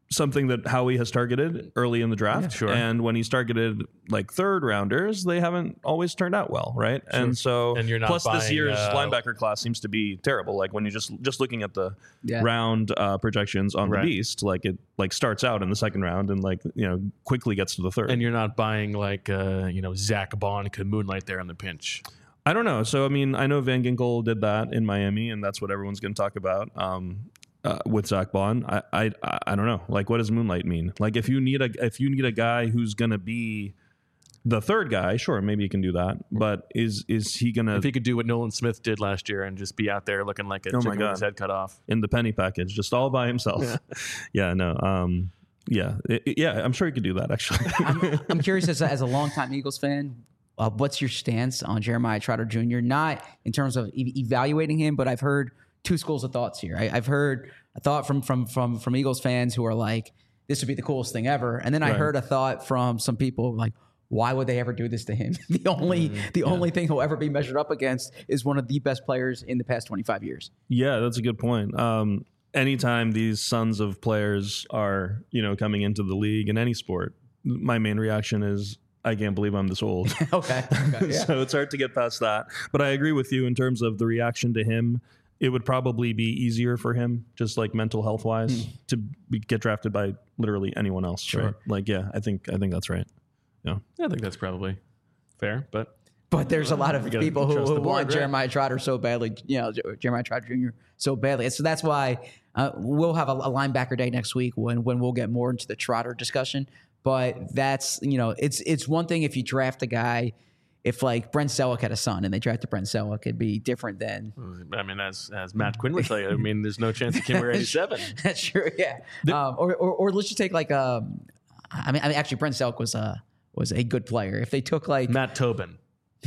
something that Howie has targeted early in the draft. Yeah, sure. And when he's targeted like third rounders, they haven't always turned out well, right? Sure. And so And you're not plus this buying, year's uh, linebacker class seems to be terrible. Like when you just just looking at the Yeah. round uh, projections on Right. the Beast, like it like starts out in the second round and like you know quickly gets to the third. And you're not buying like uh, you know Zach Bond could moonlight there on the pinch. I don't know. So I mean, I know Van Ginkel did that in Miami, and that's what everyone's going to talk about. Um, Uh, with Zach Bond, I, I I don't know. Like, what does moonlight mean? Like, if you need a if you need a guy who's gonna be the third guy, sure, maybe you can do that. But is is he gonna If he could do what Nolan Smith did last year and just be out there looking like a Oh my chicken with God. his head cut off? in the penny package just all by himself? Yeah, yeah no, um, yeah, It- it- yeah. I'm sure he could do that actually. I'm, I'm curious as a, as a longtime Eagles fan, uh, what's your stance on Jeremiah Trotter Junior? Not in terms of e- evaluating him, but I've heard two schools of thoughts here. I, I've heard a thought from from from from Eagles fans who are like, "This would be the coolest thing ever," and then I Right. heard a thought from some people like, "Why would they ever do this to him? the only the only thing he'll ever be measured up against is one of the best players in the past twenty-five years." Yeah, that's a good point. Um, anytime these sons of players are, you know, coming into the league in any sport, my main reaction is, I can't believe I'm this old. Okay, okay, yeah. So it's hard to get past that. But I agree with you in terms of the reaction to him. It would probably be easier for him, just like mental health wise, to be, get drafted by literally anyone else. Sure. Right? Like, yeah, I think I think that's right. Yeah. I think that's probably fair, but But there's a lot of We gotta people who, trust the who board, want right? Jeremiah Trotter so badly, you know, Jer- Jeremiah Trotter Junior so badly. And so that's why uh, we'll have a, a linebacker day next week when when we'll get more into the Trotter discussion. But that's, you know, it's it's one thing if you draft a guy, if like Brent Selleck had a son and they drafted Brent Selleck, it'd be different than. I mean, as as Matt Quinn would tell you, I mean, there's no chance he can wear eighty-seven. That's true, yeah. Um, or, or or let's just take like um, I mean, I mean, actually, Brent Selleck was a was a good player. If they took like Matt Tobin.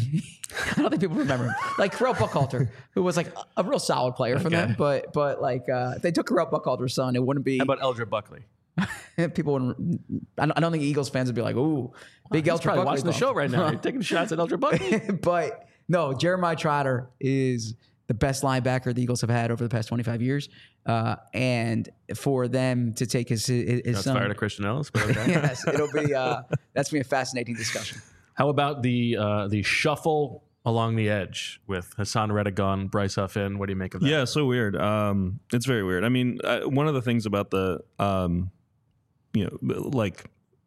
I don't think people remember him. Like Carell Buckhalter, who was like a, a real solid player for Okay. them, but but like uh, if they took Carell Buckhalter's son, it wouldn't be. How about Eldred Buckley? people wouldn't. I don't, I don't think Eagles fans would be like, "Ooh, big He's Eldred probably Buckley." watching the bump. show right now. You're taking shots at Eldred Buckley. But no, Jeremiah Trotter is the best linebacker the Eagles have had over the past twenty-five years, uh, and for them to take his his, his That's son, fired at Christian Ellis, but okay. yes, it'll be uh, that's gonna be a fascinating discussion. How about the uh, the shuffle along the edge with Hassan Reddick gone, Bryce Huff in? What do you make of that? Yeah, so weird. Um, it's very weird. I mean, uh, one of the things about the, um, you know, like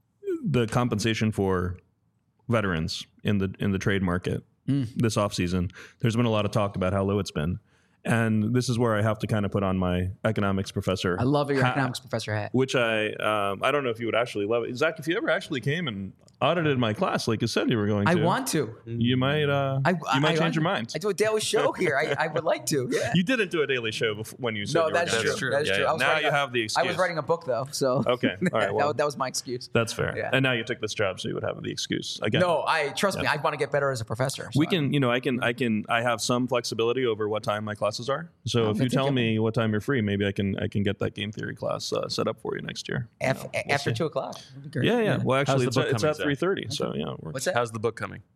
the compensation for veterans in the in the trade market Mm. this offseason, there's been a lot of talk about how low it's been. And this is where I have to kind of put on my economics professor. I love your hat, economics professor hat. Which I um, I don't know if you would actually love it. Zach, if you ever actually came and audited my class like you said you were going to. I want to. You might uh, I, you might I- change I- your mind. I do a daily show here. I, I would like to. Yeah. You didn't do a daily show before, when you said No, you were that's gonna true. do it. true. That is Yeah, true. yeah. I was Now writing you a- have the I excuse. was writing a book though, so Okay. All right. that, Well, was- that was my excuse. that's fair. Yeah. And now you took this job, so you would have the excuse again. No, I trust me. I want to get better as a professor. so We I- can, you know, I can, I can, I have some flexibility over what time my classes are. So Oh, if you that's tell okay. me what time you're free, maybe I can, I can get that game theory class uh, set up for you next year. Af- after two o'clock. That'd be great. Yeah, yeah. Well, actually, the it's, book at- it's coming, at Zach? three thirty. So yeah, it works. What's that? How's the book coming?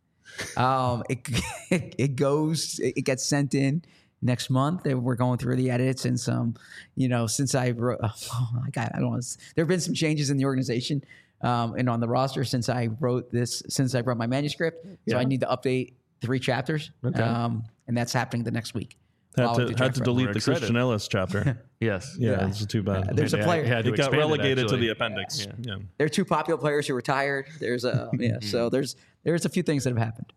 Um, it it goes, it gets sent in next month. And we're going through the edits and some, you know, since I wrote, oh, I got, I don't want to, there have been some changes in the organization um, and on the roster since I wrote this, since I wrote my manuscript. So Yeah. I need to update three chapters. Okay. Um, and that's happening the next week. Had While to, we do had draft to prep. delete We're the excited. Christian Ellis chapter. Yes. Yeah, Yeah. it's too bad. Uh, there's a Yeah, player- he had to it got expand it, relegated to actually. the appendix. Yeah. Yeah. There are two popular players who retired. There's a, yeah. So there's, there's a few things that have happened.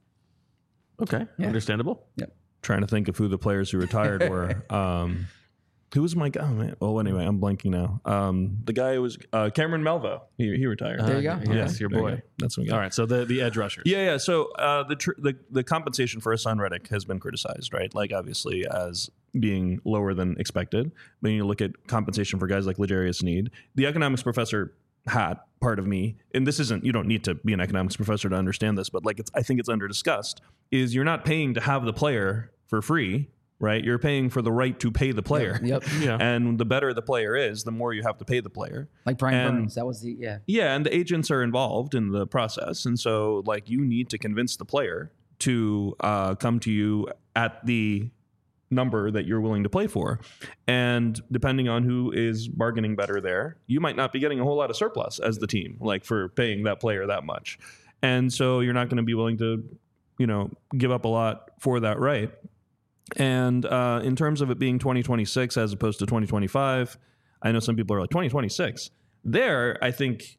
Okay. Yeah. Understandable. Yep. Trying to think of who the players who retired were. Um, who was my guy? Oh, man. Well, anyway, I'm blanking now. Um, the guy who was uh, Cameron Melvo. He, he retired. There you go. Uh, Yes, your there you boy. go. That's my guy. All right. So the, the edge rushers. Yeah, yeah. So uh, the, tr- the the compensation for Hassan Reddick has been criticized, right? Like obviously as being lower than expected. When you look at compensation for guys like L'Jarius Sneed, the economics professor hat part of me, and this isn't, you don't need to be an economics professor to understand this, but like it's, I think it's under discussed, is you're not paying to have the player for free, right? You're paying for the right to pay the player. Yep. Yeah. And the better the player is, the more you have to pay the player. Like Brian And- Burns. That was the, yeah. Yeah, and the agents are involved in the process, and so like you need to convince the player to uh, come to you at the number that you're willing to play for. And depending on who is bargaining better there, you might not be getting a whole lot of surplus as the team, like for paying that player that much. And so you're not going to be willing to, you know, give up a lot for that right. And uh, in terms of it being twenty twenty-six as opposed to twenty twenty-five, I know some people are like twenty twenty-six. There, I think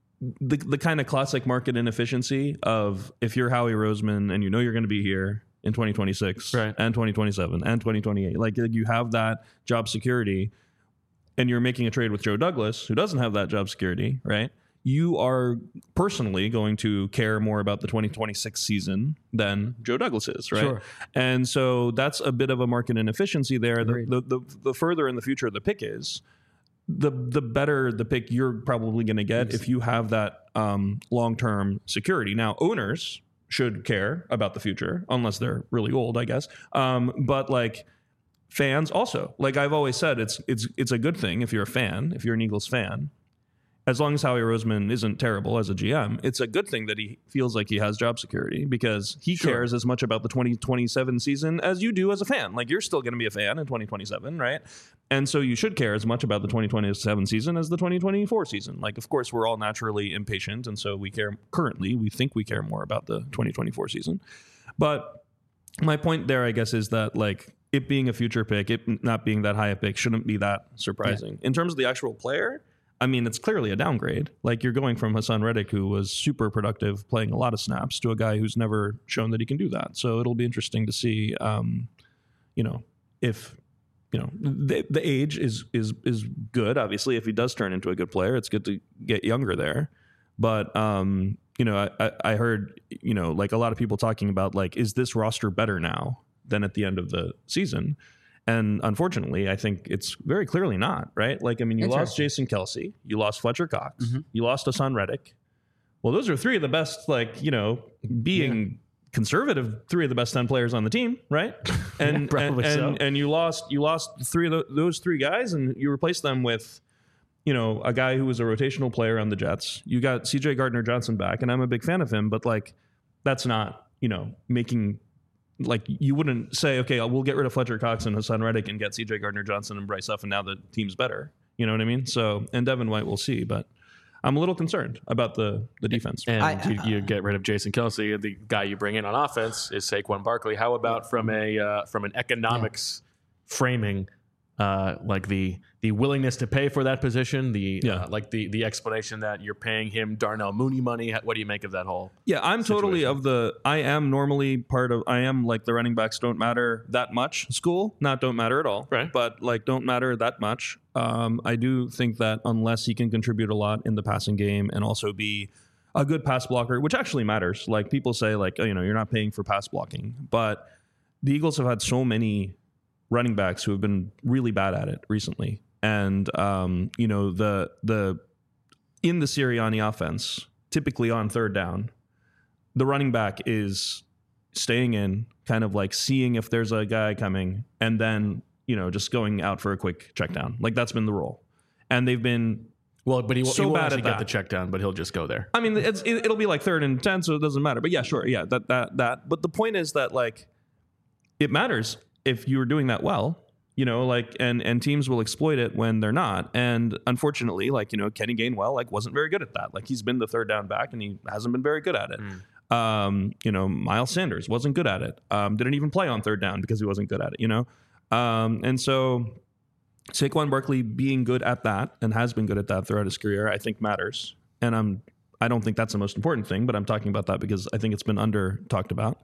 the the kind of classic market inefficiency of if you're Howie Roseman and you know you're going to be here in twenty twenty-six right. and twenty twenty-seven and twenty twenty-eight, like you have that job security, and you're making a trade with Joe Douglas, who doesn't have that job security, right? You are personally going to care more about the twenty twenty-six season than Joe Douglas is, right? Sure. And so that's a bit of a market inefficiency there. The, Agreed. the, the, the further in the future the pick is, the the better the pick you're probably going to get if you have that um, long-term security. Now, owners should care about the future, unless they're really old, I guess. Um, but like fans also, like I've always said, it's it's it's a good thing if you're a fan, if you're an Eagles fan. As long as Howie Roseman isn't terrible as a G M, it's a good thing that he feels like he has job security, because he Sure. cares as much about the twenty twenty-seven season as you do as a fan. Like, you're still going to be a fan in twenty twenty-seven, right? And so you should care as much about the twenty twenty-seven season as the twenty twenty-four season. Like, of course, we're all naturally impatient, and so we care currently, we think we care more about the twenty twenty-four season. But my point there, I guess, is that, like, it being a future pick, it not being that high a pick shouldn't be that surprising. Yeah. In terms of the actual player, I mean, it's clearly a downgrade. Like, you're going from Hassan Reddick, who was super productive, playing a lot of snaps, to a guy who's never shown that he can do that. So it'll be interesting to see, um, you know, if, you know, the, the age is is is good. Obviously, if he does turn into a good player, it's good to get younger there. But, um, you know, I, I heard, you know, like a lot of people talking about, like, is this roster better now than at the end of the season? And unfortunately, I think it's very clearly not, right? Like, I mean, you lost Jason Kelce, you lost Fletcher Cox, mm-hmm. you lost Hassan Reddick. Well, those are three of the best, like, you know, being yeah. conservative, three of the best ten players on the team, right? And yeah, probably and, so. and, and you lost you lost three of the, those three guys, and you replaced them with, you know, a guy who was a rotational player on the Jets. You got C J Gardner-Johnson back, and I'm a big fan of him, but, like, that's not, you know, making... Like, you wouldn't say, okay, we'll get rid of Fletcher Cox and Hassan Reddick and get C J Gardner-Johnson and Bryce Huff, and now the team's better. You know what I mean? So, and Devin White, we'll see, but I'm a little concerned about the the defense. And I, you, you get rid of Jason Kelce. The guy you bring in on offense is Saquon Barkley. How about from a uh, from an economics yeah. framing, uh, like the the willingness to pay for that position, the yeah. uh, like the the explanation that you're paying him Darnell Mooney money. What do you make of that whole? Yeah, I'm situation? totally of the. I am normally part of. I am like the running backs don't matter that much school. Not don't matter at all. Right. But like don't matter that much. Um, I do think that unless he can contribute a lot in the passing game and also be a good pass blocker, which actually matters. Like, people say, like, oh, you know, you're not paying for pass blocking, but the Eagles have had so many running backs who have been really bad at it recently. And, um, you know, the the in the Sirianni offense, typically on third down, the running back is staying in, kind of like seeing if there's a guy coming, and then, you know, just going out for a quick check down. Like, that's been the role. And they've been well, but he, so he won't bad actually at get that. the check down, but he'll just go there. I mean, it's, it, it'll be like third and ten, so it doesn't matter. But yeah, sure, yeah, that that that. But the point is that, like, it matters if you're doing that well. You know, like, and, and teams will exploit it when they're not. And unfortunately, like, you know, Kenny Gainwell, like, wasn't very good at that. Like, he's been the third down back and he hasn't been very good at it. Mm. Um, you know, Miles Sanders wasn't good at it. Um, didn't even play on third down because he wasn't good at it, you know? Um, and so Saquon Barkley being good at that and has been good at that throughout his career, I think matters. And I'm, I don't think that's the most important thing, but I'm talking about that because I think it's been under talked about.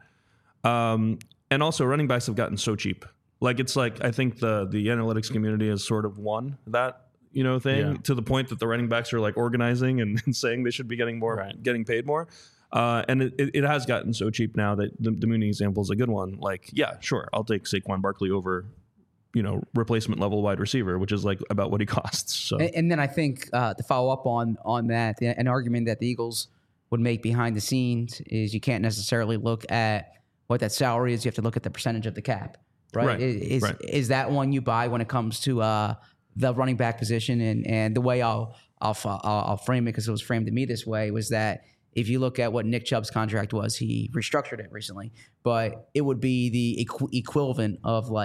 Um, and also running backs have gotten so cheap. Like, it's like, I think the the analytics community has sort of won that, you know, thing yeah. to the point that the running backs are like organizing and, and saying they should be getting more, right. getting paid more. Uh, and it, it has gotten so cheap now that the, the Mooney example is a good one. Like, yeah, sure, I'll take Saquon Barkley over, you know, replacement level wide receiver, which is like about what he costs. So, and, and then I think uh, to follow up on on that, an argument that the Eagles would make behind the scenes is you can't necessarily look at what that salary is. You have to look at the percentage of the cap. Right. Right. Is right. is that one you buy when it comes to uh, the running back position? And, and the way I'll I'll I'll, I'll frame it, because it was framed to me this way, was that if you look at what Nick Chubb's contract was, he restructured it recently, but it would be the equ- equivalent of like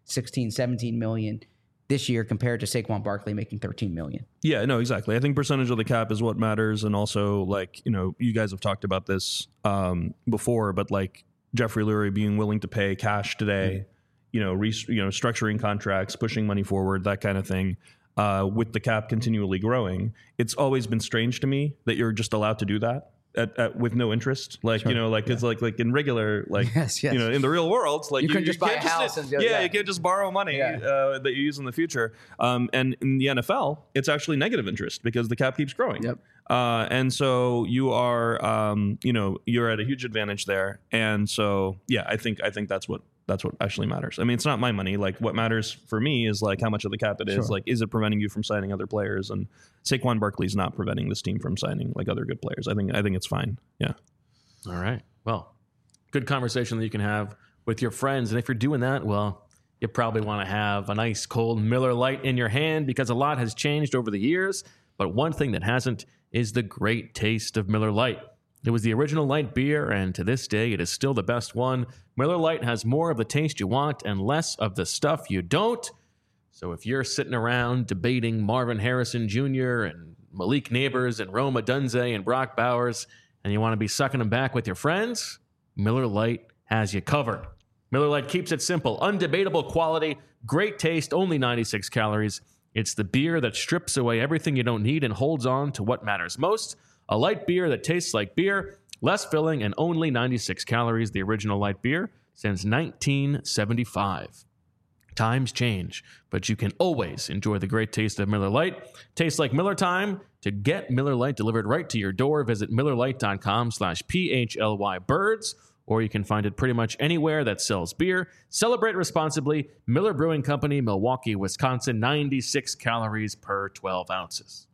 sixteen, seventeen million this year compared to Saquon Barkley making thirteen million. Yeah, no, exactly. I think percentage of the cap is what matters. And also, like, you know, you guys have talked about this um, before, but like Jeffrey Lurie being willing to pay cash today, mm-hmm. you know, re- you know, structuring contracts, pushing money forward, that kind of thing. Uh, with the cap continually growing, it's always been strange to me that you're just allowed to do that at, at, with no interest. Like, sure. you know, like yeah. it's like like in regular, like, yes, yes. you know, in the real world, like you, you can just you buy can't a house. Just, and go, yeah, yeah, you can't just borrow money yeah. uh, that you use in the future. Um, and in the N F L, it's actually negative interest because the cap keeps growing. Yep. Uh, and so you are, um, you know, you're at a huge advantage there. And so, yeah, I think I think that's what. That's what actually matters. I mean, it's not my money. Like, what matters for me is like how much of the cap it is. Sure. Like, is it preventing you from signing other players? And Saquon Barkley's not preventing this team from signing like other good players. I think I think it's fine. Yeah. All right. Well, good conversation that you can have with your friends. And if you're doing that, well, you probably want to have a nice cold Miller Lite in your hand because a lot has changed over the years. But one thing that hasn't is the great taste of Miller Lite. It was the original light beer, and to this day, it is still the best one. Miller Lite has more of the taste you want and less of the stuff you don't. So if you're sitting around debating Marvin Harrison Junior and Malik Neighbors and Rome Odunze and Brock Bowers, and you want to be sucking them back with your friends, Miller Lite has you covered. Miller Lite keeps it simple. Undebatable quality, great taste, only ninety-six calories. It's the beer that strips away everything you don't need and holds on to what matters most. A light beer that tastes like beer, less filling, and only ninety-six calories, the original light beer, since nineteen seventy-five. Times change, but you can always enjoy the great taste of Miller Lite. Tastes like Miller time. To get Miller Lite delivered right to your door, visit millerlite.com slash PHLY birds, or you can find it pretty much anywhere that sells beer. Celebrate responsibly. Miller Brewing Company, Milwaukee, Wisconsin, ninety-six calories per twelve ounces.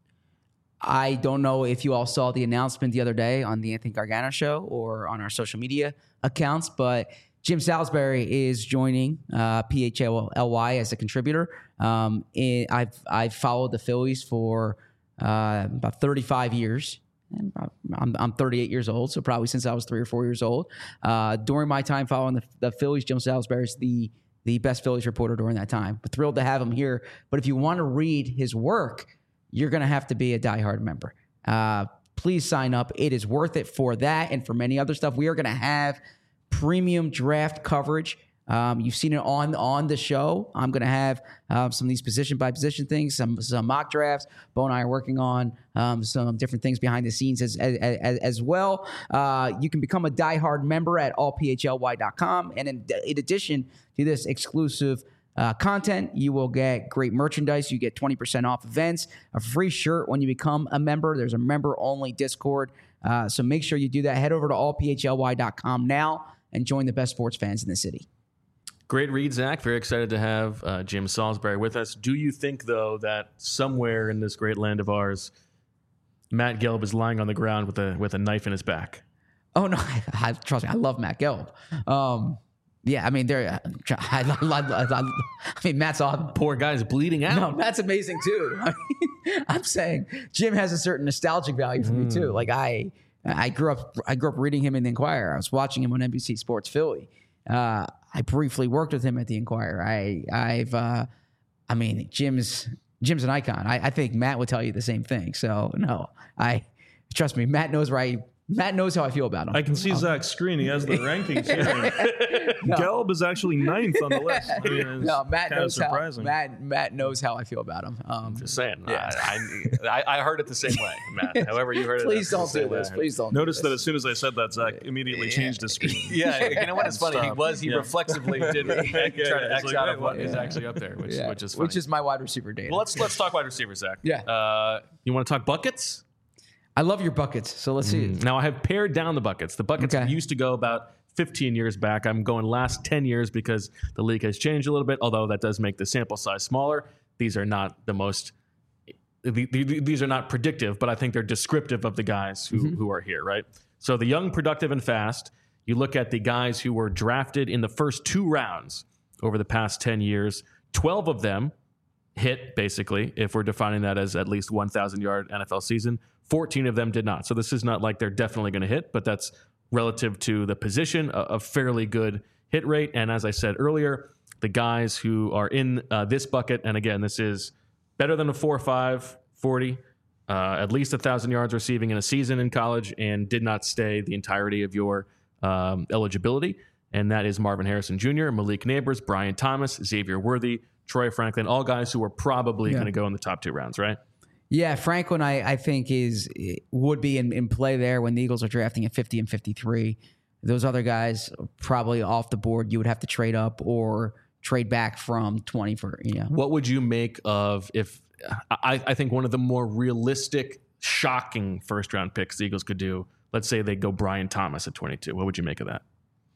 I don't know if you all saw the announcement the other day on the Anthony Gargano show or on our social media accounts, but Jim Salisbury is joining uh, P H L Y as a contributor. Um, it, I've I've followed the Phillies for uh, about thirty-five years. And I'm, I'm thirty-eight years old, so probably since I was three or four years old. Uh, during my time following the, the Phillies, Jim Salisbury is the the best Phillies reporter during that time. We're thrilled to have him here. But if you want to read his work, you're going to have to be a diehard member. Uh, please sign up. It is worth it for that and for many other stuff. We are going to have premium draft coverage. Um, you've seen it on, on the show. I'm going to have uh, some of these position by position things, some, some mock drafts. Bo and I are working on um, some different things behind the scenes as, as, as, as well. Uh, you can become a diehard member at all P H L Y dot com. And in, in addition to this exclusive Uh, content, you will get great merchandise. You get twenty percent off events, a free shirt when you become a member. There's a member-only Discord. Uh, so make sure you do that. Head over to all P H L Y dot com now and join the best sports fans in the city. Great read, Zach. Very excited to have uh, Jim Salisbury with us. Do you think, though, that somewhere in this great land of ours, Matt Gelb is lying on the ground with a with a knife in his back? Oh, no. I, I, trust me, I love Matt Gelb. Um Yeah, I mean, they're. I, I, I, I mean, Matt's on. Poor guy's bleeding out. No, Matt's amazing too. I mean, I'm saying Jim has a certain nostalgic value for mm. me too. Like I, I grew up. I grew up reading him in the Enquirer. I was watching him on N B C Sports Philly. Uh, I briefly worked with him at the Enquirer. I, I've. Uh, I mean, Jim's Jim's an icon. I, I think Matt would tell you the same thing. So no, I trust me. Matt knows where I. Matt knows how I feel about him. I can see um, Zach's screen. He has the rankings here. no. Gelb is actually ninth on the list. I mean, no, Matt knows how. Matt, Matt knows how I feel about him. Um, Just saying. Yeah. I, I, I heard it the same way, Matt. However you heard it. Please don't do this. Please don't. Notice do that as soon as I said that, Zach immediately yeah. changed his screen. Yeah, you know what? It's funny. He was. He yeah. reflexively did try to X like, out of what yeah. is actually up there, which, yeah. which is funny. Which is my wide receiver data. Well, let's let's talk wide receiver, Zach. Yeah. Uh, you want to talk buckets? I love your buckets, so let's see. Mm. Now, I have pared down the buckets. The buckets okay. used to go about fifteen years back. I'm going last ten years because the league has changed a little bit, although that does make the sample size smaller. These are not the most these are not predictive, but I think they're descriptive of the guys who, mm-hmm. who are here, right? So the young, productive, and fast, you look at the guys who were drafted in the first two rounds over the past ten years, twelve of them hit, basically, if we're defining that as at least one thousand yard N F L season. fourteen of them did not. So this is not like they're definitely going to hit, but that's relative to the position, a, a fairly good hit rate. And as I said earlier, the guys who are in uh, this bucket. And again, this is better than a four five forty, uh, at least one thousand yards receiving in a season in college, and did not stay the entirety of your um, eligibility. And that is Marvin Harrison Junior, Malik Neighbors, Brian Thomas, Xavier Worthy, Troy Franklin, all guys who are probably Yeah. going to go in the top two rounds, right? Yeah, Franklin, I, I think is would be in, in play there when the Eagles are drafting at fifty and fifty-three. Those other guys are probably off the board. You would have to trade up or trade back from twenty for, you know. What would you make of if I, I think one of the more realistic, shocking first round picks the Eagles could do? Let's say they go Brian Thomas at twenty-two. What would you make of that?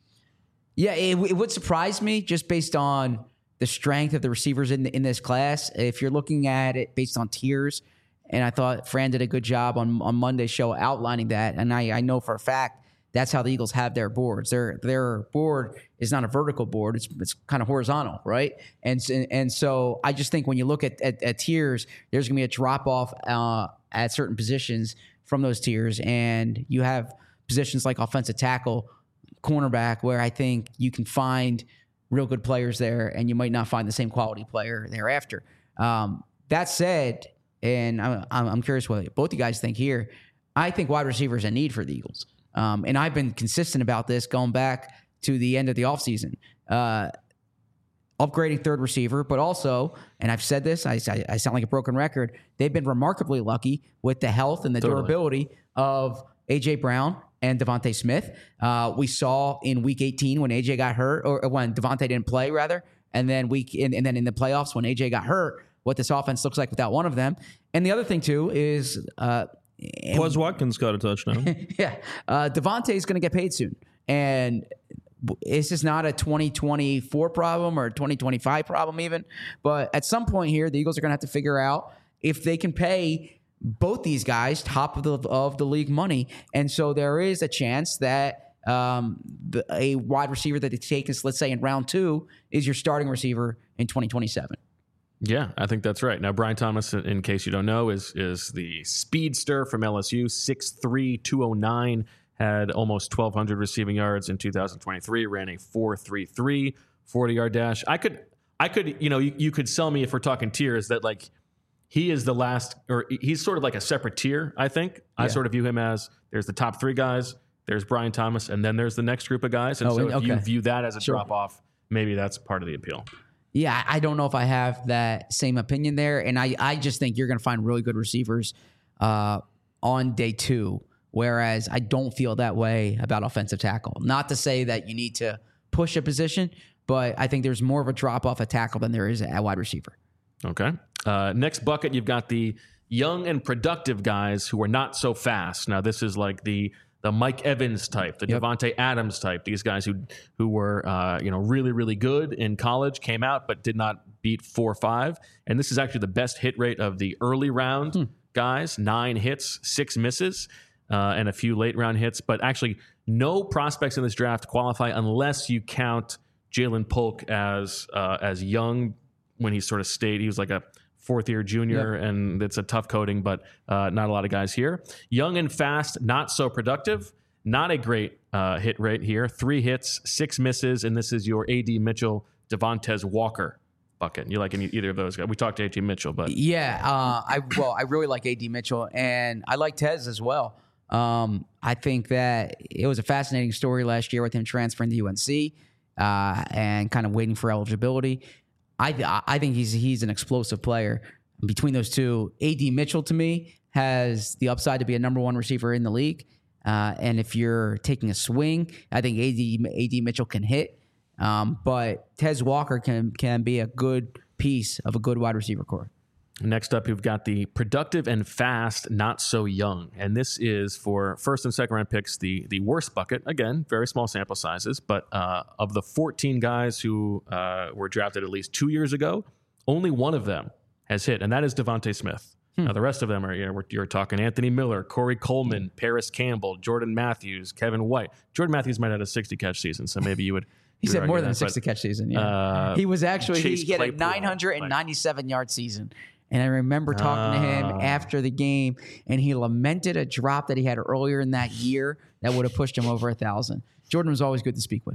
Yeah, it, it would surprise me just based on the strength of the receivers in in this class. If you're looking at it based on tiers, and I thought Fran did a good job on, on Monday's show outlining that, and I, I know for a fact that's how the Eagles have their boards. Their their board is not a vertical board; it's it's kind of horizontal, right? And and so I just think when you look at at, at tiers, there's going to be a drop off uh, at certain positions from those tiers, and you have positions like offensive tackle, cornerback, where I think you can find real good players there, and you might not find the same quality player thereafter. Um, that said, and I'm, I'm curious what both you guys think here. I think wide receiver is a need for the Eagles. Um, and I've been consistent about this going back to the end of the offseason. Uh, upgrading third receiver, but also, and I've said this, I, I, I sound like a broken record, they've been remarkably lucky with the health and the Totally. durability of A J. Brown and Devontae Smith. Uh, we saw in week eighteen when A J got hurt, or when Devontae didn't play, rather, and then week and, and then in the playoffs when A J got hurt, what this offense looks like without one of them. And the other thing too is, uh, Quez Watkins got a touchdown. yeah, uh, Devontae is going to get paid soon, and this is not a twenty twenty-four problem or a twenty twenty-five problem even. But at some point here, the Eagles are going to have to figure out if they can pay both these guys top of the of the league money, and so there is a chance that um, the, a wide receiver that they take is, let's say, in round two, is your starting receiver in twenty twenty-seven. Yeah, I think that's right. Now, Brian Thomas, in case you don't know, is is the speedster from L S U, six three, two oh nine, had almost twelve hundred receiving yards in two thousand twenty-three, ran a four three three forty-yard dash. I could, I could, you know, you, you could sell me, if we're talking tiers, that like he is the last, or he's sort of like a separate tier, I think. I Yeah. sort of view him as there's the top three guys, there's Brian Thomas, and then there's the next group of guys. And Oh, so if okay. you view that as a Sure. drop-off, maybe that's part of the appeal. Yeah, I don't know if I have that same opinion there. And I, I just think you're going to find really good receivers uh, on day two, whereas I don't feel that way about offensive tackle. Not to say that you need to push a position, but I think there's more of a drop-off at tackle than there is at wide receiver. Okay. Uh, next bucket, you've got the young and productive guys who are not so fast. Now, this is like the the Mike Evans type, the Yep. Devontae Adams type. These guys who who were uh, you know really really good in college, came out but did not beat four five. And this is actually the best hit rate of the early round Hmm. guys. Nine hits, six misses, uh, and a few late round hits. But actually, no prospects in this draft qualify unless you count Jalen Polk as uh, as young when he sort of stayed. He was like a fourth year junior, and it's a tough coding, but uh, not a lot of guys here. Young and fast, not so productive. Not a great uh, hit rate here. Three hits, six misses, and this is your A D Mitchell, Devontae Walker bucket. You like any, either of those guys? We talked to A D Mitchell, but Yeah, uh, I well, I really like A D Mitchell, and I like Tez as well. Um, I think that it was a fascinating story last year with him transferring to U N C uh, and kind of waiting for eligibility. I I think he's he's an explosive player. Between those two, A D Mitchell to me has the upside to be a number one receiver in the league. Uh, and if you're taking a swing, I think A D A D Mitchell can hit. Um, but Tez Walker can can be a good piece of a good wide receiver core. next up, you've got the productive and fast, not so young. And this is for first and second round picks, the the worst bucket. Again, very small sample sizes. But uh, of the fourteen guys who uh, were drafted at least two years ago, only one of them has hit, and that is Devontae Smith. Hmm. Now, the rest of them are, you know, we're, you're talking Anthony Miller, Corey Coleman, Paris Campbell, Jordan Matthews, Kevin White. Jordan Matthews might have had a sixty catch season, so maybe you would. He said more than a that, sixty but, catch season. Yeah, uh, he was actually he, Chase he had a Claypool, nine hundred ninety-seven yard season. And I remember talking to him Ah. after the game, and he lamented a drop that he had earlier in that year that would have pushed him over a thousand. Jordan was always good to speak with.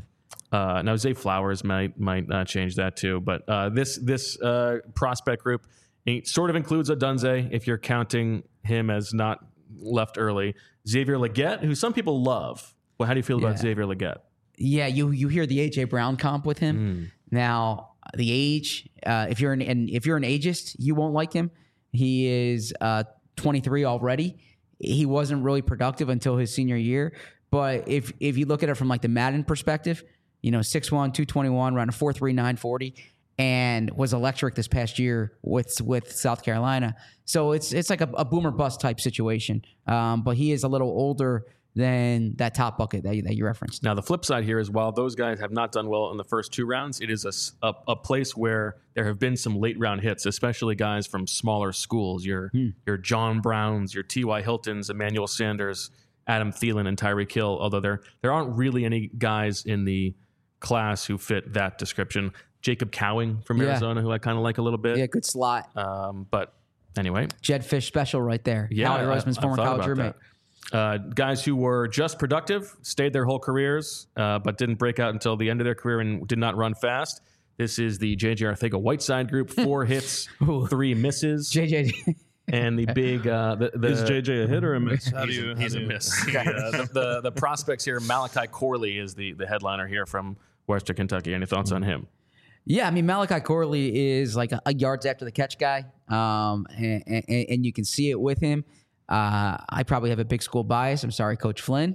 Uh, now Zay Flowers might might uh, change that too, but uh, this this uh, prospect group it sort of includes Odunze if you're counting him as not left early. Xavier Legette, who some people love. Well, how do you feel about Yeah. Xavier Legette? Yeah, you you hear the A J Brown comp with him. Mm. Now the age, uh, if you're an and if you're an ageist, you won't like him. He is uh, twenty-three already. He wasn't really productive until his senior year. But if if you look at it from like the Madden perspective, you know, six one, two twenty-one, around a four three, nine forty, and was electric this past year with with South Carolina. So it's it's like a, a boomer bust type situation. Um, but he is a little older than that top bucket that you, that you referenced. Now, the flip side here is while those guys have not done well in the first two rounds, it is a, s- a- a place where there have been some late round hits, especially guys from smaller schools. Your Hmm. your John Browns, your T Y Hiltons, Emmanuel Sanders, Adam Thielen, and Tyreek Hill. Although there there aren't really any guys in the class who fit that description. Jacob Cowing from Yeah. Arizona, who I kind of like a little bit. Yeah, good slot. Um, but anyway, Jed Fish special right there. yeah, Howie I- Roseman's I former thought college about roommate. that. Uh, guys who were just productive, stayed their whole careers, uh, but didn't break out until the end of their career and did not run fast. This is the J J Arcega-Whiteside group. Four hits, Ooh. three misses, J J. and the big uh, the, the Is J J a hit or a miss? How do He's, you? a, how he's do a you- miss. The, uh, the, the the prospects here. Malachi Corley is the the headliner here from Western Kentucky. Any thoughts on him? Yeah, I mean Malachi Corley is like a, a yards after the catch guy, um, and, and, and you can see it with him. Uh, I probably have a big school bias. I'm sorry, Coach Flynn,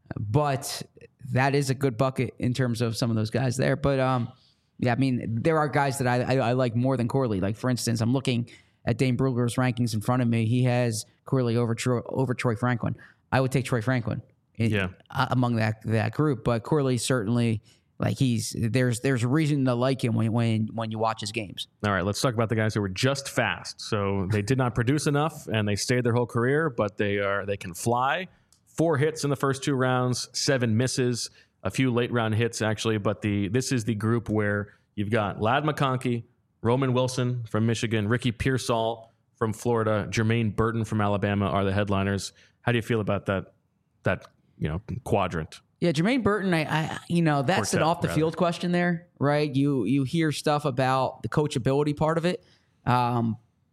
but that is a good bucket in terms of some of those guys there. But um, yeah, I mean there are guys that I, I, I like more than Corley. Like for instance, I'm looking at Dane Brugler's rankings in front of me. He has Corley over Troy, over Troy Franklin. I would take Troy Franklin in, Yeah. uh, among that that group, but Corley certainly. Like he's there's there's a reason to like him when when when you watch his games. All right, let's talk about the guys who were just fast. So they did not produce enough, and they stayed their whole career, but they are they can fly. Four hits in the first two rounds, seven misses, a few late round hits actually. But the this is the group where you've got Ladd McConkey, Roman Wilson from Michigan, Ricky Pearsall from Florida, Jermaine Burton from Alabama are the headliners. How do you feel about that that you know quadrant? Yeah, Jermaine Burton, I, I you know, that's an Quartet, off the field question there, right? You you hear stuff about the coachability part of it. Um,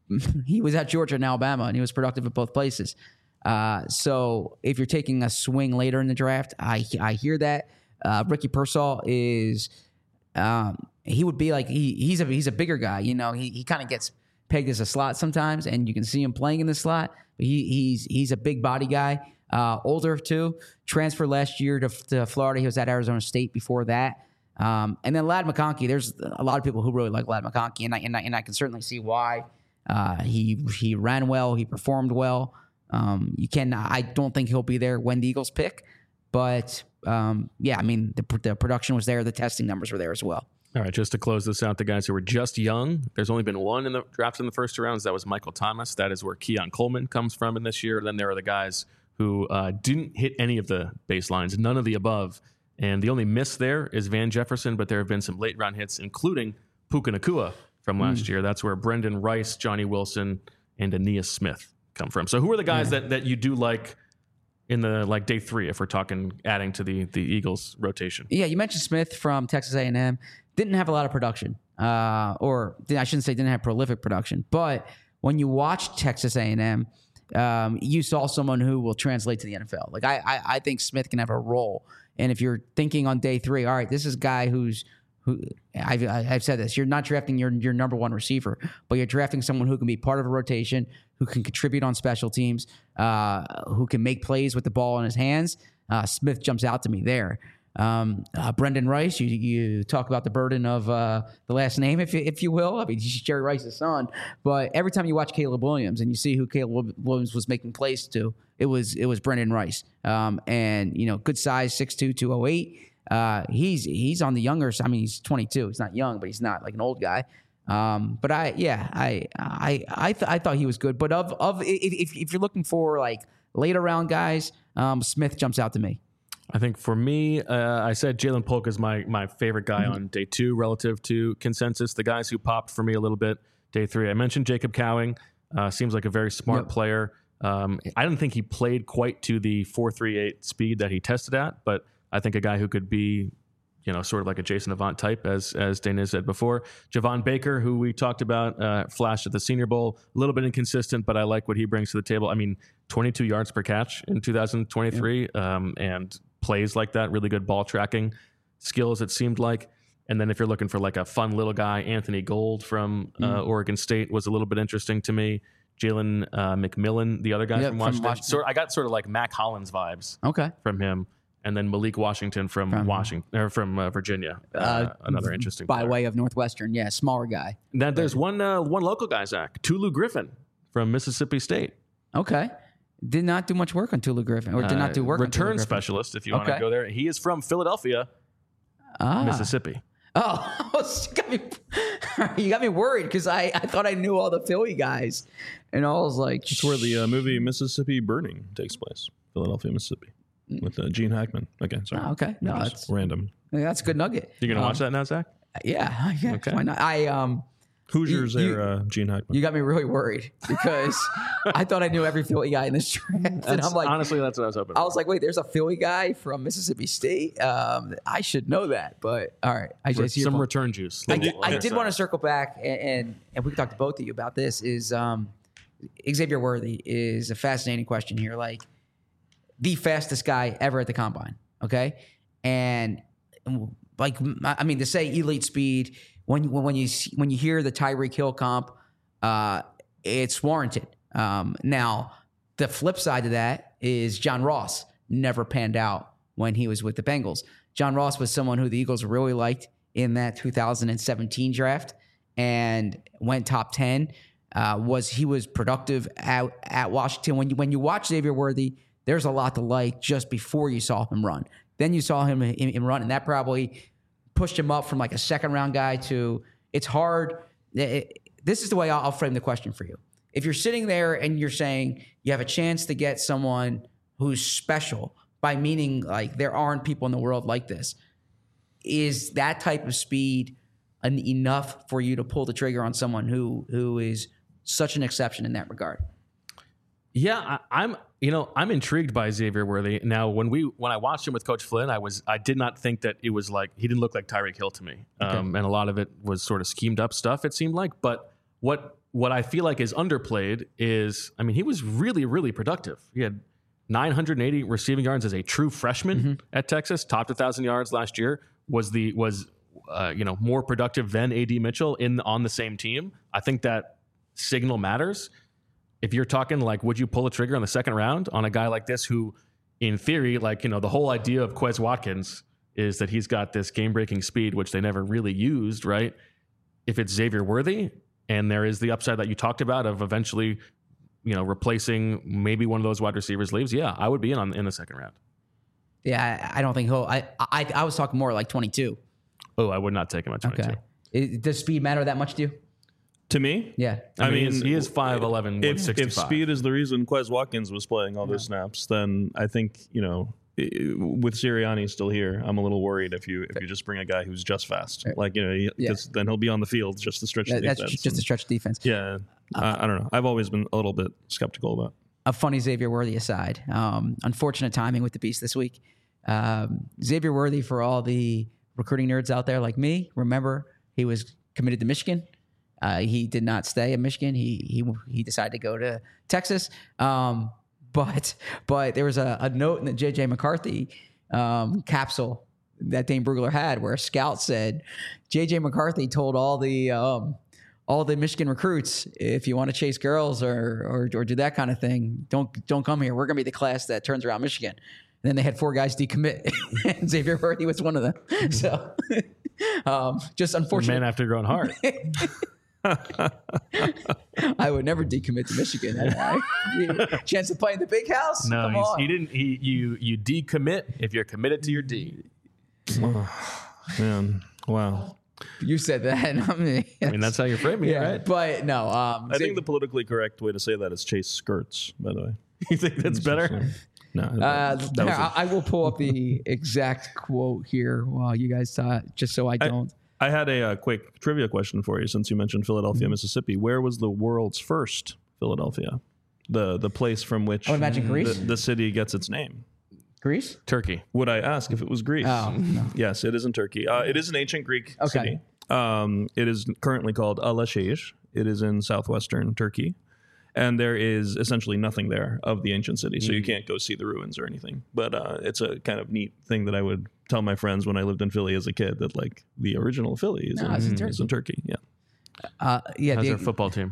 he was at Georgia and Alabama, and he was productive at both places. Uh, so if you're taking a swing later in the draft, I I hear that. Uh, Ricky Pearsall is um, he would be like he he's a he's a bigger guy. You know, he he kind of gets pegged as a slot sometimes, and you can see him playing in the slot. But he he's he's a big body guy. Uh, older too. Transferred last year to, to Florida. He was at Arizona State before that. Um, and then Ladd McConkey. There's a lot of people who really like Ladd McConkey, and I and I, and I can certainly see why. Uh, he he ran well. He performed well. Um, you can. I don't think he'll be there when the Eagles pick, but um, yeah, I mean the the production was there. The testing numbers were there as well. All right, just to close this out, the guys who were just young, there's only been one in the draft in the first two rounds. That was Michael Thomas. That is where Keon Coleman comes from in this year. Then there are the guys who uh, didn't hit any of the baselines, none of the above. And the only miss there is Van Jefferson, but there have been some late round hits, including Puka Nacua from last Mm. year. That's where Brendan Rice, Johnny Wilson, and Aeneas Smith come from. So who are the guys Yeah. that, that you do like in the like day three, if we're talking adding to the, the Eagles rotation? Yeah, you mentioned Smith from Texas A and M. Didn't have a lot of production, uh, or I shouldn't say didn't have prolific production. But when you watch Texas A and M, um, you saw someone who will translate to the N F L. Like I, I, I think Smith can have a role. And if you're thinking on day three, all right, this is a guy who's who I've, I've said this. You're not drafting your your number one receiver, but you're drafting someone who can be part of a rotation, who can contribute on special teams, uh, who can make plays with the ball in his hands. Uh, Smith jumps out to me there. Um, uh, Brendan Rice, you you talk about the burden of uh, the last name, if you, if you will. I mean, he's Jerry Rice's son, but every time you watch Caleb Williams and you see who Caleb Williams was making plays to, it was it was Brendan Rice. Um, and you know, good size, six two, two oh eight. Uh, he's he's on the younger side. I mean, he's twenty-two. He's not young, but he's not like an old guy. Um, but I yeah, I I I th- I thought he was good. But of of if if you're looking for like later round guys, um, Smith jumps out to me. I think for me, uh, I said Jalen Polk is my my favorite guy on day two relative to consensus. The guys who popped for me a little bit day three. I mentioned Jacob Cowing. Uh, seems like a very smart Yep. player. Um, I don't think he played quite to the four three eight speed that he tested at, but I think a guy who could be you know, sort of like a Jason Avant type, as as Dana said before. Javon Baker, who we talked about, uh, flashed at the Senior Bowl, a little bit inconsistent, but I like what he brings to the table. I mean, twenty-two yards per catch in two thousand twenty-three, yeah. um, and plays like that, really good ball tracking skills, it seemed like. And then if you're looking for like a fun little guy, Anthony Gold from uh, mm. Oregon State was a little bit interesting to me. Jalen uh, McMillan, the other guy yep, from Washington. From Washington. Sort, I got sort of like Mac Hollins vibes okay. from him. And then Malik Washington from, from Washington or from uh, Virginia, uh, uh, another interesting by player. way of Northwestern, yeah, smaller guy. Then there's one uh, one local guy, Zach Tulu Griffin from Mississippi State. Okay, did not do much work on Tulu Griffin, or did not do work. Uh, on return Tulu specialist, if you okay. want to go there. He is from Philadelphia, ah. Mississippi. Oh, you got me, you got me worried because I, I thought I knew all the Philly guys, and I was like, it's where the uh, movie Mississippi Burning takes place, Philadelphia, Mississippi. With uh, Gene Hackman. Okay, sorry. Oh, okay, no, that's random. That's a good nugget. You gonna um, watch that now, Zach? Yeah, yeah. Okay. Why not? I um, Hoosiers you, there, uh, Gene Hackman. You got me really worried because I thought I knew every Philly guy in this draft, and I'm like, honestly, that's what I was hoping. I for. was like, wait, there's a Philly guy from Mississippi State. Um, I should know that, but all right, I just some return juice. I, I did want to circle back, and, and and we can talk to both of you about this. Is um, Xavier Worthy is a fascinating question here, like. The fastest guy ever at the combine, okay? And like, I mean, to say elite speed, when when you when you hear the Tyreek Hill comp, uh, it's warranted. Um, now, the flip side of that is John Ross never panned out when he was with the Bengals. John Ross was someone who the Eagles really liked in that two thousand seventeen draft and went top ten. Uh, was he was productive at, at Washington. When you when you watch Xavier Worthy, there's a lot to like just before you saw him run. Then you saw him in, in run, and that probably pushed him up from like a second round guy to it's hard. It, this is the way I'll, I'll frame the question for you. If you're sitting there and you're saying you have a chance to get someone who's special, by meaning like there aren't people in the world like this, is that type of speed an, enough for you to pull the trigger on someone who who is such an exception in that regard? Yeah, I, I'm. You know, I'm intrigued by Xavier Worthy. Now, when we when I watched him with Coach Flynn, I was I did not think that it was like he didn't look like Tyreek Hill to me, okay. um, and a lot of it was sort of schemed up stuff. It seemed like, but what what I feel like is underplayed is, I mean, he was really really productive. He had nine hundred eighty receiving yards as a true freshman mm-hmm. at Texas, topped one thousand yards last year. Was the was uh, you know more productive than A D Mitchell in on the same team. I think that signal matters. If you're talking like, would you pull a trigger on the second round on a guy like this who, in theory, like, you know, the whole idea of Quez Watkins is that he's got this game-breaking speed, which they never really used, right? If it's Xavier Worthy and there is the upside that you talked about of eventually, you know, replacing maybe one of those wide receivers leaves, yeah, I would be in on in the second round. Yeah, I, I don't think he'll. I, I I was talking more like twenty-two. Oh, I would not take him at twenty-two. Okay. It, does speed matter that much to you? To me? Yeah. I, I mean, mean, he is five eleven, one sixty-five. If speed is the reason Quez Watkins was playing all those yeah. snaps, then I think, you know, with Sirianni still here, I'm a little worried if you if you just bring a guy who's just fast. Right. Like, you know, he, yeah. then he'll be on the field just to stretch yeah, the that's defense. That's just to stretch defense. Yeah. Uh, I, I don't know. I've always been a little bit skeptical about it. A funny Xavier Worthy aside. Um, unfortunate timing with the Beast this week. Um, Xavier Worthy, for all the recruiting nerds out there like me, remember he was committed to Michigan. Uh, he did not stay at Michigan. He he he decided to go to Texas. Um, but but there was a, a note in the J J McCarthy um, capsule that Dane Brugler had where a scout said J J McCarthy told all the um, all the Michigan recruits, if you want to chase girls or, or or do that kind of thing, don't don't come here. We're gonna be the class that turns around Michigan. And then they had four guys decommit, and Xavier Worthy was one of them. So um, just unfortunate. Man after growing hard. I would never decommit to Michigan. I, chance to play in the big house? No, Come he's, on. he didn't. He you you decommit if you're committed to your D. Man, wow. You said that. I mean, I mean that's how you're framing yeah, it, right? But no. Um, I think the politically correct way to say that is chase skirts. By the way, you think that's better? No. Uh, that here, was a- I, I will pull up the exact quote here while you guys talk, just so I don't. I, I had a, a quick trivia question for you since you mentioned Philadelphia, mm-hmm. Mississippi. Where was the world's first Philadelphia? The the place from which I would imagine Greece. The, the city gets its name. Greece? Turkey. Would I ask if it was Greece? Oh, no. Yes, it is in Turkey. Uh, it is an ancient Greek Okay. city. Um, it is currently called Alaşehir. It is in southwestern Turkey. And there is essentially nothing there of the ancient city. So you can't go see the ruins or anything. But uh, it's a kind of neat thing that I would tell my friends when I lived in Philly as a kid, that like the original Philly is, No, in, it's in is in Turkey. Yeah. Uh, yeah, How's the, their football team?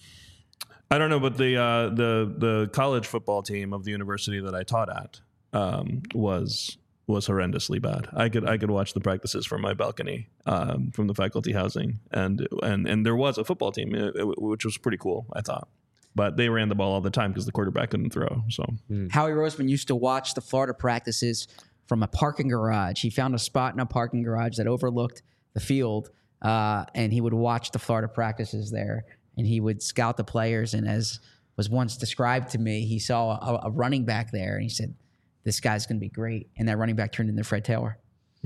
I don't know, but the uh, the the college football team of the university that I taught at um, was was horrendously bad. I could I could watch the practices from my balcony um, from the faculty housing, and and and there was a football team, uh, which was pretty cool, I thought. But they ran the ball all the time because the quarterback couldn't throw. So Howie Roseman used to watch the Florida practices from a parking garage. He found a spot in a parking garage that overlooked the field, uh, and he would watch the Florida practices there. And he would scout the players. And as was once described to me, he saw a, a running back there, and he said, "This guy's going to be great." And that running back turned into Fred Taylor.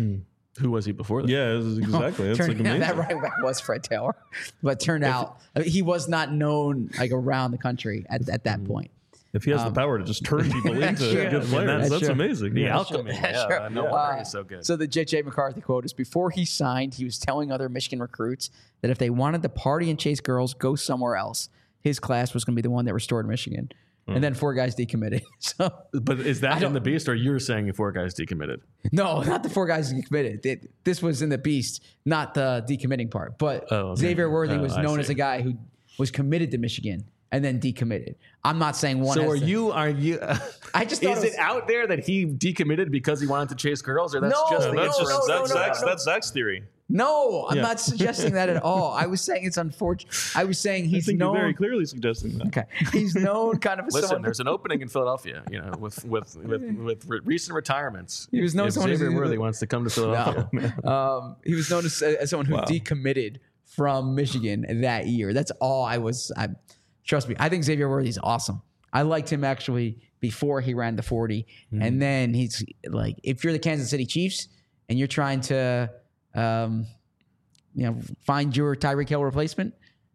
Who was he before that? yeah, it was exactly. That's like Turned, amazing. that running back was Fred Taylor, but turned out I mean, he was not known like around the country at, at that point. If he has the power to just turn people into true. good players, That's that's true. amazing. The Yeah. alchemy. Yeah, Sure. no Yeah. wonder Uh, he's so good. So the J J McCarthy quote is, before he signed, he was telling other Michigan recruits that if they wanted to party and chase girls, go somewhere else. His class was going to be the one that restored Michigan. And then four guys decommitted. So but is that in don't- the Beast, or you're saying four guys decommitted? no, not the four guys decommitted. It- This was in the Beast, not the decommitting part. But Oh, okay. Xavier Worthy Oh, was I known see. as a guy who was committed to Michigan and then decommitted. I'm not saying one. So has are to- you? Are you? I just thought is it was- it out there that he decommitted because he wanted to chase girls, or that's No, just no, the That's no, just no, that's no, no, Zach's, no. that's Zach's theory. No, I'm Yeah. not suggesting that at all. I was saying it's unfortunate. I was saying I he's think known. you're very clearly suggesting that. Okay, he's known kind of as Listen, someone. there's an opening in Philadelphia, you know, with with with, with re- recent retirements. He was known if someone Xavier who- Worthy wants to come to Philadelphia. um, he was known as, as someone who Wow. decommitted from Michigan that year. That's all I was. I trust me. I think Xavier Worthy's awesome. I liked him actually before he ran the forty, and then he's like, if you're the Kansas City Chiefs and you're trying to, um, you know, find your Tyreek Hill replacement,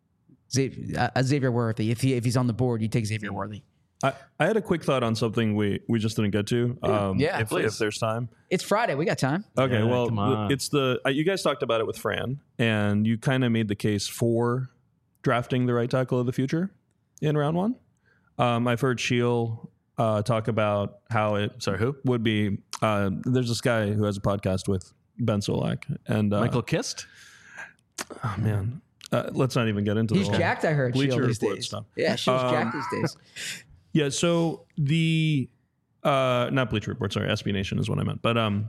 Xavier, uh, Xavier Worthy. If he if he's on the board, you take Xavier Worthy. I, I had a quick thought on something we, we just didn't get to. Um, Yeah, if, please. if there's time. It's Friday. We got time. Okay, Yeah, well, come on. it's the uh, you guys talked about it with Fran, and you kind of made the case for drafting the right tackle of the future in round one. Um, I've heard Sheil uh, talk about how it Sorry, who? would be. Uh, there's this guy who has a podcast with Ben Solak, and uh, Michael Kist. Oh man, uh, let's not even get into He's the whole jacked. I heard Bleacher Shield these Report days. stuff. Yeah, Shield's Um, jacked these days. Yeah, so the uh not Bleacher Report, sorry, S B Nation is what I meant. But um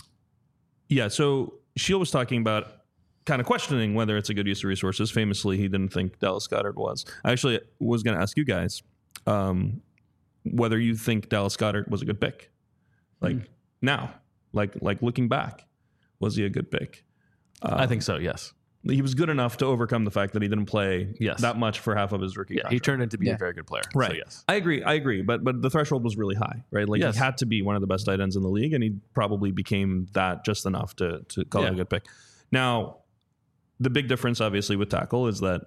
yeah, so Shield was talking about kind of questioning whether it's a good use of resources. Famously, he didn't think Dallas Goedert was. I actually was going to ask you guys um whether you think Dallas Goedert was a good pick. Like now, like like looking back, was he a good pick? I think so. Yes. He was good enough to overcome the fact that he didn't play Yes. that much for half of his rookie Yeah. contract. He turned into be Yeah. a very good player. Right. So yes. I agree. I agree. But but the threshold was really high, right? Like Yes. he had to be one of the best tight ends in the league, and he probably became that just enough to to call it Yeah. a good pick. Now, the big difference, obviously, with tackle is that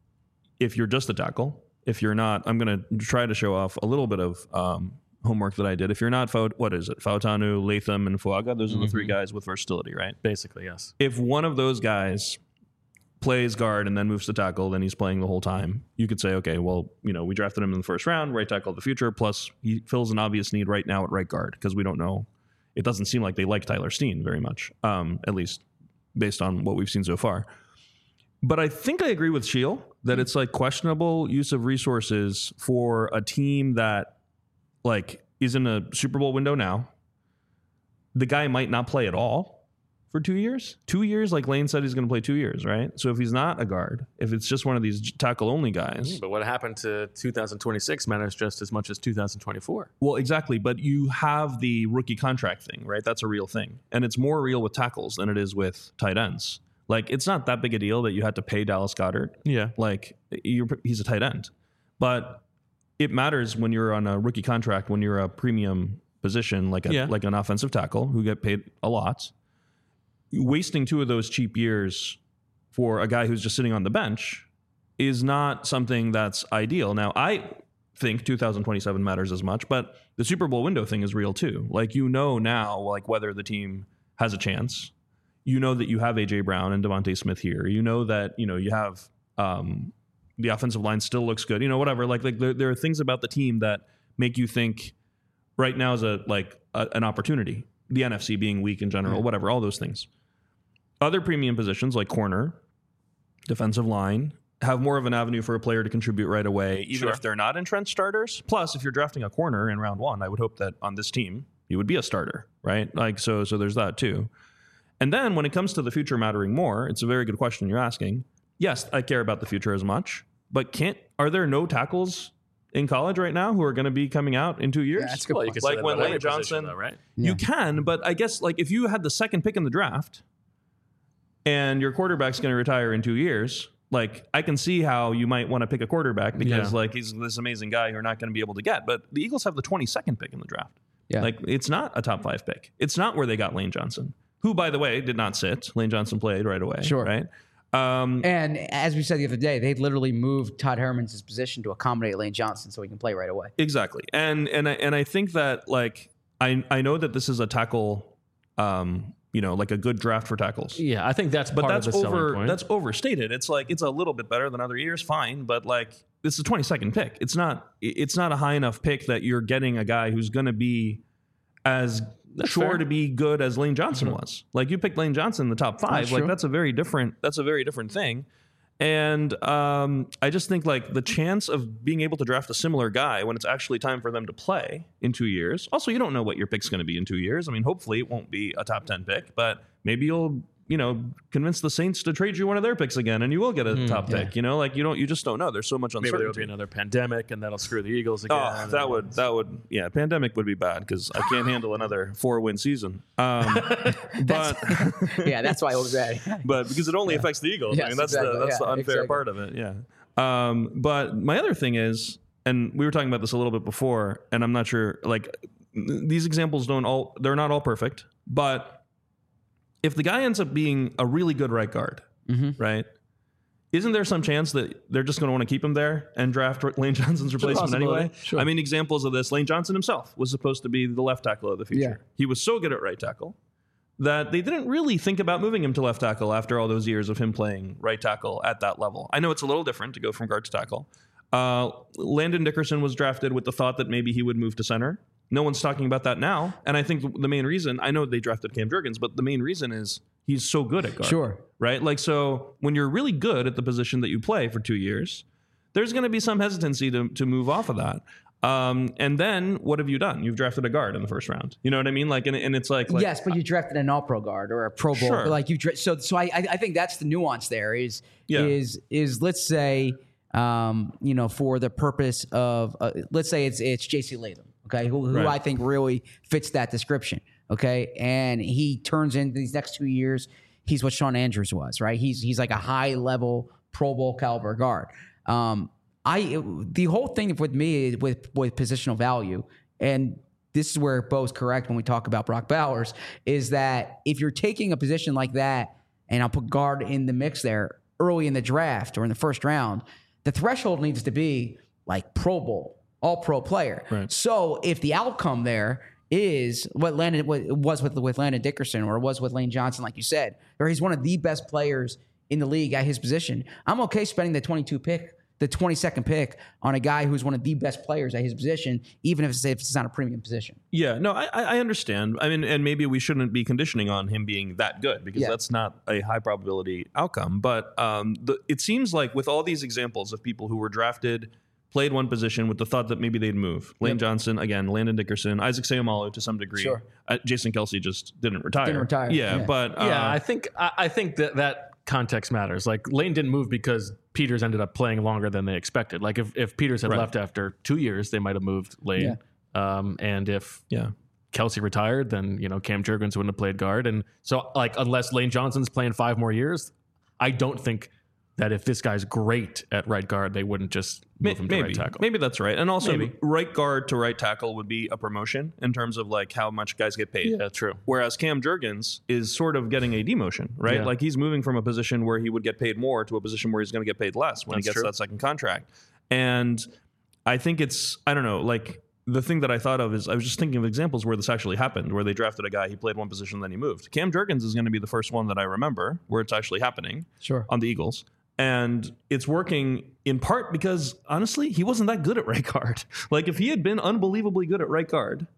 if you're just a tackle, if you're not, I'm going to try to show off a little bit of um, homework that I did. If you're not, Faut- what is it? Fautanu, Latham, and Fuaga. Those are the three guys with versatility, right? Basically, yes. If one of those guys plays guard and then moves to tackle, then he's playing the whole time. You could say, okay, well, you know, we drafted him in the first round, right tackle of the future. Plus, he fills an obvious need right now at right guard because we don't know. It doesn't seem like they like Tyler Steen very much, um, at least based on what we've seen so far. But I think I agree with Shiel that it's like questionable use of resources for a team that like is in a Super Bowl window now. The guy might not play at all for two years. Two years, like Lane said, he's going to play two years, right? So if he's not a guard, if it's just one of these tackle only guys, But what happened to two thousand twenty-six matters just as much as two thousand twenty-four. well, exactly. But you have the rookie contract thing, right? That's a real thing, and it's more real with tackles than it is with tight ends. Like it's not that big a deal that you had to pay Dallas Goedert. Yeah. Like you're, he's a tight end, but it matters when you're on a rookie contract, when you're a premium position, like a, Yeah. like an offensive tackle who get paid a lot. Wasting two of those cheap years for a guy who's just sitting on the bench is not something that's ideal. Now, I think two thousand twenty-seven matters as much, but the Super Bowl window thing is real too. Like, you know now, like, whether the team has a chance. You know that you have A J Brown and Devontae Smith here. You know that, you know, you have um, the offensive line still looks good. You know, whatever. Like, like there, there are things about the team that make you think right now is a like a, an opportunity. The N F C being weak in general, mm-hmm. whatever, all those things. Other premium positions like corner, defensive line, have more of an avenue for a player to contribute right away, even sure. if they're not entrenched starters. Plus, if you're drafting a corner in round one, I would hope that on this team, you would be a starter, right? Like, so, so there's that too. And then when it comes to the future mattering more, it's a very good question you're asking. Yes, I care about the future as much, but can't, are there no tackles in college right now who are going to be coming out in two years? Yeah, that's a good well, point. you can Like when Lane Johnson, though, right? You Yeah. can, but I guess like if you had the second pick in the draft and your quarterback's going to retire in two years, like I can see how you might want to pick a quarterback because Yeah. like he's this amazing guy you're not going to be able to get. But the Eagles have the twenty-second pick in the draft. Yeah. Like it's not a top five pick. It's not where they got Lane Johnson, who, by the way, did not sit. Lane Johnson played right away. Sure. Right. Um, And as we said the other day, they literally moved Todd Herman's position to accommodate Lane Johnson so he can play right away. exactly. And and I and I think that like I I know that this is a tackle, um, you know, like a good draft for tackles. Yeah, I think that's But part that's of the selling over. point. That's overstated. It's like it's a little bit better than other years, fine. But like this is a twenty-second pick. It's not. It's not a high enough pick that you're getting a guy who's going to be as That's sure fair. to be good as Lane Johnson was. Like you picked Lane Johnson in the top five. That's like true. that's a very different. That's a very different thing. And um, I just think like the chance of being able to draft a similar guy when it's actually time for them to play in two years. Also, you don't know what your pick's going to be in two years. I mean, hopefully it won't be a top ten pick, but maybe you'll, you know, convince the Saints to trade you one of their picks again, and you will get a top yeah. pick. You know, like you don't, you just don't know. There's so much Maybe uncertainty. there will be another pandemic, and that'll screw the Eagles again. Oh, that would that would yeah. Pandemic would be bad because I can't handle another four win season. Um, but Yeah, that's why I was bad. but because it only affects the Eagles. I Yes, mean, that's exactly. the that's Yeah, the unfair exactly. part of it. Yeah. Um, but my other thing is, and we were talking about this a little bit before, and I'm not sure. Like these examples don't all they're not all perfect, but if the guy ends up being a really good right guard, Mm-hmm. right? Isn't there some chance that they're just going to want to keep him there and draft Lane Johnson's replacement possibility. anyway? Sure. I mean, examples of this, Lane Johnson himself was supposed to be the left tackle of the future. Yeah. He was so good at right tackle that they didn't really think about moving him to left tackle after all those years of him playing right tackle at that level. I know it's a little different to go from guard to tackle. Uh, Landon Dickerson was drafted with the thought that maybe he would move to center. No one's talking about that now. And I think the main reason, I know they drafted Cam Jurgens, but the main reason is he's so good at guard. Sure. Right? Like, so when you're really good at the position that you play for two years, there's going to be some hesitancy to, to move off of that. Um, and then what have you done? You've drafted a guard in the first round. You know what I mean? Like, and, and it's like, like yes, but you drafted an all-pro guard or a Pro Bowl. Sure. Like you, dra- so so I I I think that's the nuance. There is Yeah. is is let's say um you know for the purpose of uh, let's say it's it's J C Latham, okay, who, who Right. I think really fits that description, okay, and he turns into these next two years. He's what Sean Andrews was, right? He's he's like a high-level Pro Bowl caliber guard. Um, I the whole thing with me with with positional value, and this is where Bo's correct when we talk about Brock Bowers, is that if you're taking a position like that, and I'll put guard in the mix there early in the draft or in the first round, the threshold needs to be like Pro Bowl, all pro player. Right. So if the outcome there is what Landon what was with with Landon Dickerson or was with Lane Johnson, like you said, or he's one of the best players in the league at his position, I'm okay spending the twenty-two pick, the twenty-second pick on a guy who's one of the best players at his position, even if it's, if it's not a premium position. Yeah, no, I, I understand. I mean, and maybe we shouldn't be conditioning on him being that good because Yeah. that's not a high probability outcome. But um, the, it seems like with all these examples of people who were drafted, played one position with the thought that maybe they'd move. Lane Yep. Johnson, again, Landon Dickerson, Isaac Seumalo to some degree. Sure. Uh, Jason Kelsey just didn't retire. Didn't retire, Yeah, yeah. but uh, yeah, I think I, I think that that context matters. Like Lane didn't move because Peters ended up playing longer than they expected. Like if, if Peters had Right. left after two years, they might have moved Lane. Um, and if yeah. Kelsey retired, then you know Cam Jurgens wouldn't have played guard. And so like unless Lane Johnson's playing five more years, I don't think that if this guy's great at right guard, they wouldn't just move him to Maybe, right tackle. maybe that's right. And also, Maybe. right guard to right tackle would be a promotion in terms of like how much guys get paid. Yeah, true. Whereas Cam Jurgens is sort of getting a demotion, right? Yeah. Like he's moving from a position where he would get paid more to a position where he's going to get paid less when That's he gets true. that second contract. And I think it's, I don't know, like the thing that I thought of is I was just thinking of examples where this actually happened, where they drafted a guy, he played one position, then he moved. Cam Jurgens is going to be the first one that I remember where it's actually happening Sure. on the Eagles. And it's working in part because, honestly, he wasn't that good at right guard. Like, if he had been unbelievably good at right guard,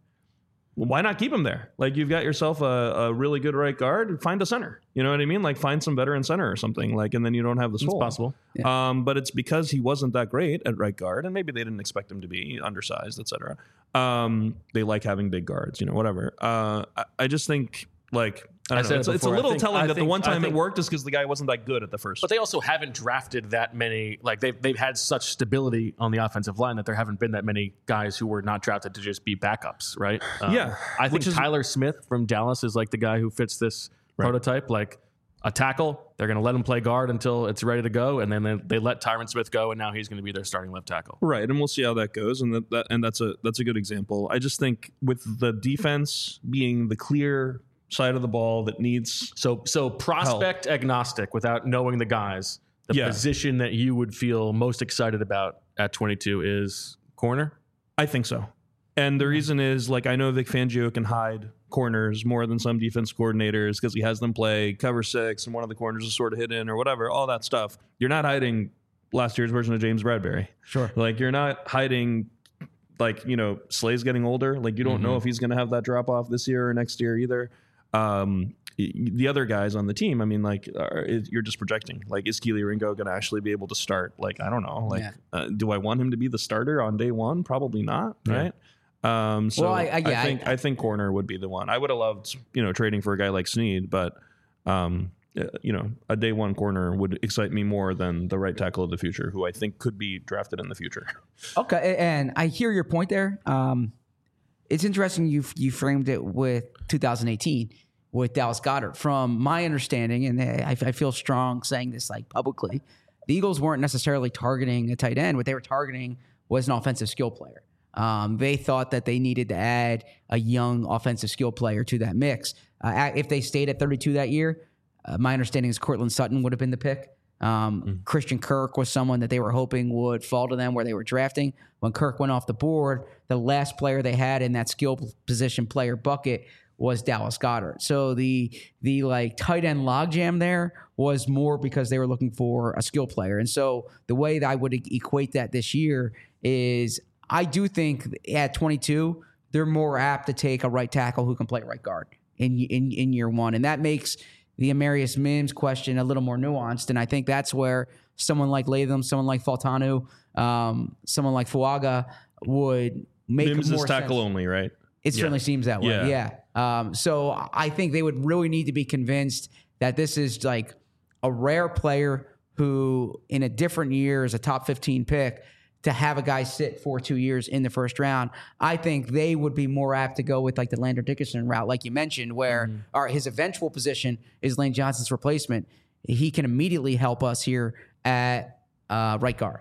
why not keep him there? Like, you've got yourself a, a really good right guard, find a center. You know what I mean? Like, find some veteran center or something. Like, and then you don't have this It's hole. possible. Yeah. Um, but it's because he wasn't that great at right guard, and maybe they didn't expect him to be undersized, et cetera. Um, they like having big guards, you know, whatever. Uh, I, I just think, like, I I don't said know. it It's, it's a before. I little think- telling I that the think- one I time think- it worked is because the guy wasn't that good at the first. But they also haven't drafted that many. Like they've they've had such stability on the offensive line that there haven't been that many guys who were not drafted to just be backups, right? Um, Yeah, I think which is- Tyler Smith from Dallas is like the guy who fits this prototype. Like a tackle, they're going to let him play guard until it's ready to go, and then they, they let Tyron Smith go, and now he's going to be their starting left tackle. Right, and we'll see how that goes, and that, that and that's a that's a good example. I just think with the defense being the clear side of the ball that needs, So so prospect agnostic, without knowing the guys, the Yeah. position that you would feel most excited about at twenty-two is corner. I think so. And the reason is, like, I know Vic Fangio can hide corners more than some defense coordinators because he has them play cover six and one of the corners is sort of hidden or whatever, all that stuff. You're not hiding last year's version of James Bradbury. Sure. Like, you're not hiding, like, you know, Slay's getting older. Like, you don't know if he's going to have that drop off this year or next year either. Um, y- the other guys on the team, I mean, like, are, is, you're just projecting. Like, is Keely Ringo going to actually be able to start? Like, I don't know. Like, Yeah. uh, do I want him to be the starter on day one? Probably not, right? Um, so Well, I- I, I- yeah, think I- I, think corner would be the one. I would have loved, you know, trading for a guy like Snead, but um, uh, you know, a day one corner would excite me more than the right tackle of the future, who I think could be drafted in the future. Okay, and I hear your point there. Um, it's interesting you you framed it with two thousand eighteen with Dallas Goedert. From my understanding, and I, I feel strong saying this like publicly, the Eagles weren't necessarily targeting a tight end. What they were targeting was an offensive skill player. Um, they thought that they needed to add a young offensive skill player to that mix. Uh, if they stayed at thirty-two that year, uh, my understanding is Cortland Sutton would have been the pick. Um, Mm-hmm. Christian Kirk was someone that they were hoping would fall to them where they were drafting. When Kirk went off the board, the last player they had in that skill position player bucket was Dallas Goedert. So the the like tight end logjam there was more because they were looking for a skill player. And so the way that I would e- equate that this year is I do think at twenty-two, they're more apt to take a right tackle who can play right guard in in, in year one. And that makes the Amarius Mims question a little more nuanced. And I think that's where someone like Latham, someone like Faltanu, um, someone like Fuaga would make Mims more is tackle sense. only, right? It certainly seems that way. Yeah. Yeah. Um, so I think they would really need to be convinced that this is like a rare player who, in a different year, is a top fifteen pick. To have a guy sit for two years in the first round, I think they would be more apt to go with like the Lander Dickerson route, like you mentioned, where Mm-hmm. our, his eventual position is Lane Johnson's replacement. He can immediately help us here at uh, right guard.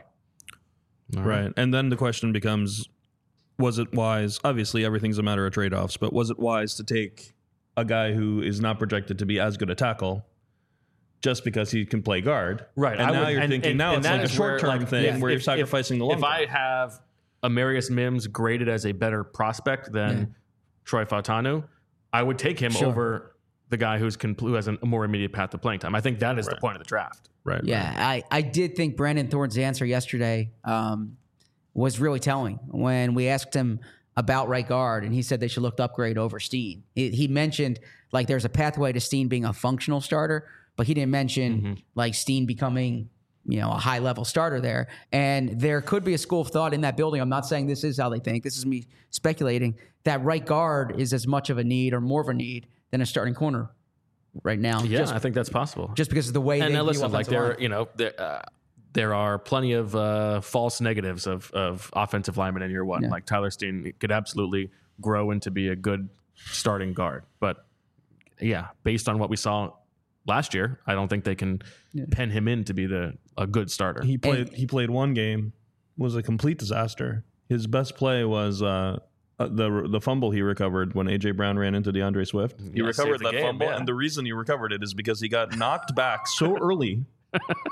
Right. And then the question becomes, was it wise? Obviously, everything's a matter of trade-offs, but was it wise to take a guy who is not projected to be as good a tackle just because he can play guard? Right. And I now would- you're and- thinking and- now and it's that like a is where, short-term like, thing if- where you're if- sacrificing the long If I term. have Amarius Mims graded as a better prospect than Yeah. Troy Fautanu, I would take him Sure. over the guy who's compl- who has a more immediate path to playing time. I think that is the point of the draft. Right. Yeah, I, I did think Brandon Thorne's answer yesterday um, was really telling when we asked him about right guard, and he said they should look to upgrade over Steen. He, he mentioned like there's a pathway to Steen being a functional starter, but he didn't mention Mm-hmm. like Steen becoming you know a high level starter there. And there could be a school of thought in that building. I'm not saying this is how they think. This is me speculating that right guard is as much of a need or more of a need than a starting corner right now. Yeah, just, I think that's possible. just because of the way and they now view listen, like offensive there, line. you know, there, uh, there are plenty of uh, false negatives of of offensive linemen in year one. Yeah. Like Tyler Steen could absolutely grow into be a good starting guard, but yeah, based on what we saw last year, I don't think they can pen him in to be the a good starter. He played he played one game, was a complete disaster. His best play was uh, uh, the the fumble he recovered when A J Brown ran into DeAndre Swift. He Yeah, recovered saved the that game, fumble, yeah. and the reason he recovered it is because he got knocked back so early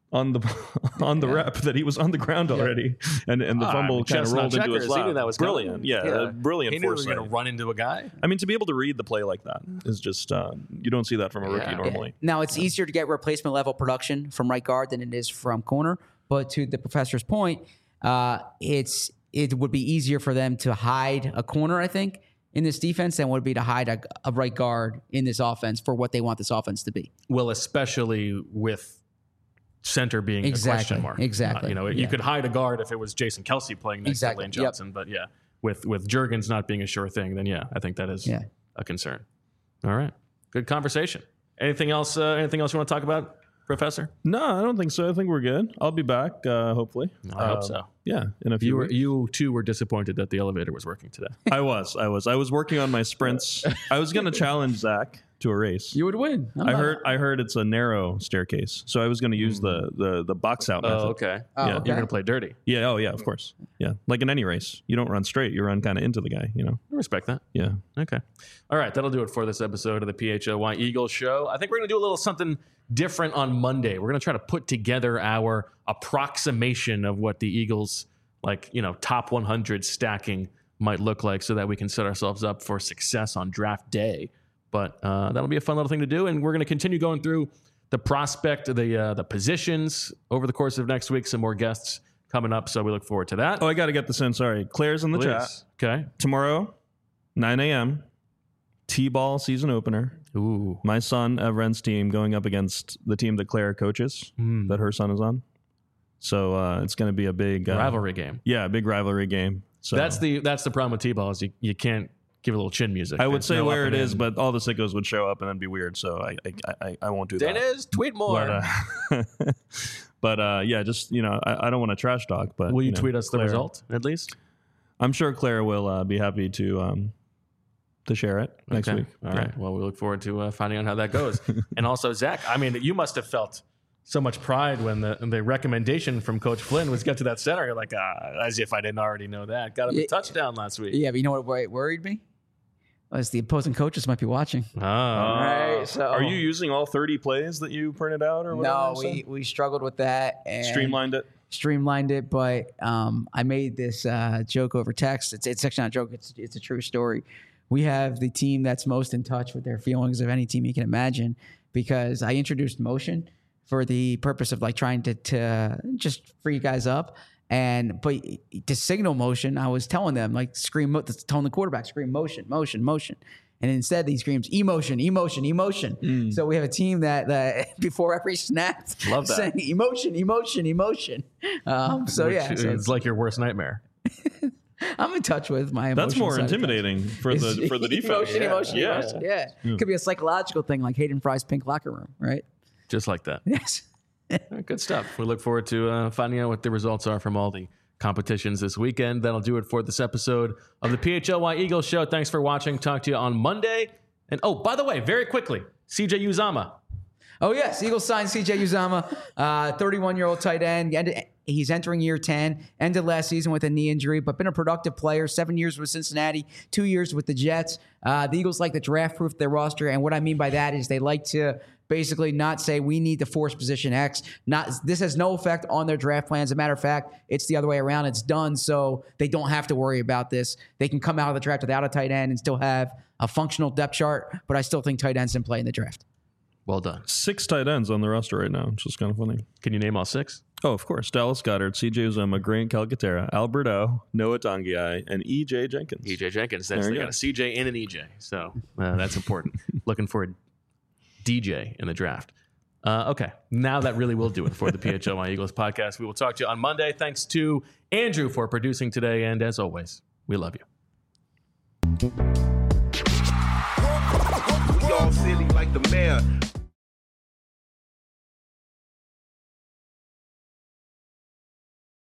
on the on the Yeah. rep that he was on the ground already, and and the Ah, fumble kind of chestnut rolled into his checkers. He lap. knew that was brilliant, coming. yeah, uh, brilliant He knew he was foresight. going to run into a guy. I mean, to be able to read the play like that is just uh, you don't see that from a rookie Yeah. normally. Now it's easier to get replacement level production from right guard than it is from corner. But to the professor's point, uh, it's it would be easier for them to hide a corner, I think, in this defense than would be to hide a, a right guard in this offense for what they want this offense to be. Well, especially with center being Exactly, a question mark. exactly, Uh, you know, yeah. you could hide a guard if it was Jason Kelsey playing next Exactly, to Lane yep. Johnson, but yeah, with with Juergens not being a sure thing, then yeah, I think that is Yeah. a concern. All right, good conversation. Anything else? Uh, anything else you want to talk about, Professor? No, I don't think so. I think we're good. I'll be back, uh, hopefully. I hope Um, so. Yeah, in a few You were weeks. you too were disappointed that the elevator was working today. I was, I was, I was working on my sprints. I was going to challenge Zach to a race. You would win. I'm I not- heard, I heard it's a narrow staircase, so I was going to use the the the box out method. Oh, okay. Oh, Yeah. okay. You're gonna play dirty. Yeah. Oh, yeah. Of course. Yeah. Like in any race, you don't run straight. You run kind of into the guy. You know. I respect that. Yeah. Okay. All right. That'll do it for this episode of the P H O Y Eagles show. I think we're going to do a little something different on Monday. We're going to try to put together our approximation of what the Eagles, like, you know, top one hundred stacking might look like so that we can set ourselves up for success on draft day. But uh, that'll be a fun little thing to do. And we're going to continue going through the prospect, the uh, the positions over the course of next week. Some more guests coming up. So we look forward to that. Oh, I got to get this in. Sorry. Claire's in the chat. Please. Okay. Tomorrow, nine a.m., T-ball season opener. Ooh. My son, Evren's team, going up against the team that Claire coaches, Mm. that her son is on. So uh, it's going to be a big uh, Rivalry game. Yeah, a big rivalry game. So That's the that's the problem with T-ball is you, you can't give a little chin music. I would There's say no where up it and is, in. but all the sickos would show up and then be weird. So I I, I, I won't do that. Dennis, tweet more. But, uh, but uh, yeah, just you know, I, I don't want to trash talk, but Will you, know, tweet us the Claire- result at least? I'm sure Claire will uh, be happy to um, to share it next Okay. week. All right. Well, we look forward to uh, finding out how that goes. And also, Zach, I mean, you must have felt so much pride when the the recommendation from Coach Flynn was get to that center. You're like, ah, as if I didn't already know that. Got him a Yeah. touchdown last week. Yeah, but you know what wor- worried me? Was the opposing coaches might be watching. Oh. Right, so Are you using all thirty plays that you printed out or whatever? No, you we, said? we struggled with that and streamlined it. streamlined it, but um, I made this uh, joke over text. It's, it's actually not a joke. It's it's a true story. We have the team that's most in touch with their feelings of any team you can imagine because I introduced motion for the purpose of like trying to, to just free you guys up. And but to signal motion, I was telling them like scream, mo- telling the quarterback scream motion, motion, motion. And instead, he screams emotion, emotion, emotion. So we have a team that, that before every snap, Love that. saying emotion, emotion, emotion. Um, so Which yeah, so it's like your worst nightmare. I'm in touch with my. That's emotional more side of things. intimidating for the for the defense. Emotion, emotion, Yeah. emotion. Yeah. Could be a psychological thing like Hayden Fry's pink locker room, right? Just like that. Yes. All right, good stuff. We look forward to uh, finding out what the results are from all the competitions this weekend. That'll do it for this episode of the P H L Y Eagles show. Thanks for watching. Talk to you on Monday. And oh, by the way, very quickly, C J Uzama. Oh, yes. Eagles signed C J Uzama, uh, thirty-one-year-old tight end. Ended- He's entering year ten. Ended last season with a knee injury, but been a productive player. Seven years with Cincinnati, two years with the Jets. Uh, the Eagles like to draft-proof their roster, and what I mean by that is they like to basically not say we need to force position X. Not This has no effect on their draft plans. As a matter of fact, it's the other way around. It's done, so they don't have to worry about this. They can come out of the draft without a tight end and still have a functional depth chart, but I still think tight ends can play in the draft. Well done. Six tight ends on the roster right now, which is kind of funny. Can you name all six? Oh, of course. Dallas Goddard, C J Uzomah, Grant Calcaterra, Alberto, Noah Tongiai, and E J Jenkins. E J Jenkins. That's, There they you got go. a C J and an E J. So uh, that's important. Looking for a D J in the draft. Uh, okay. Now that really will do it for the P H L Y Eagles podcast. We will talk to you on Monday. Thanks to Andrew for producing today. And as always, we love you. We all silly like the mayor.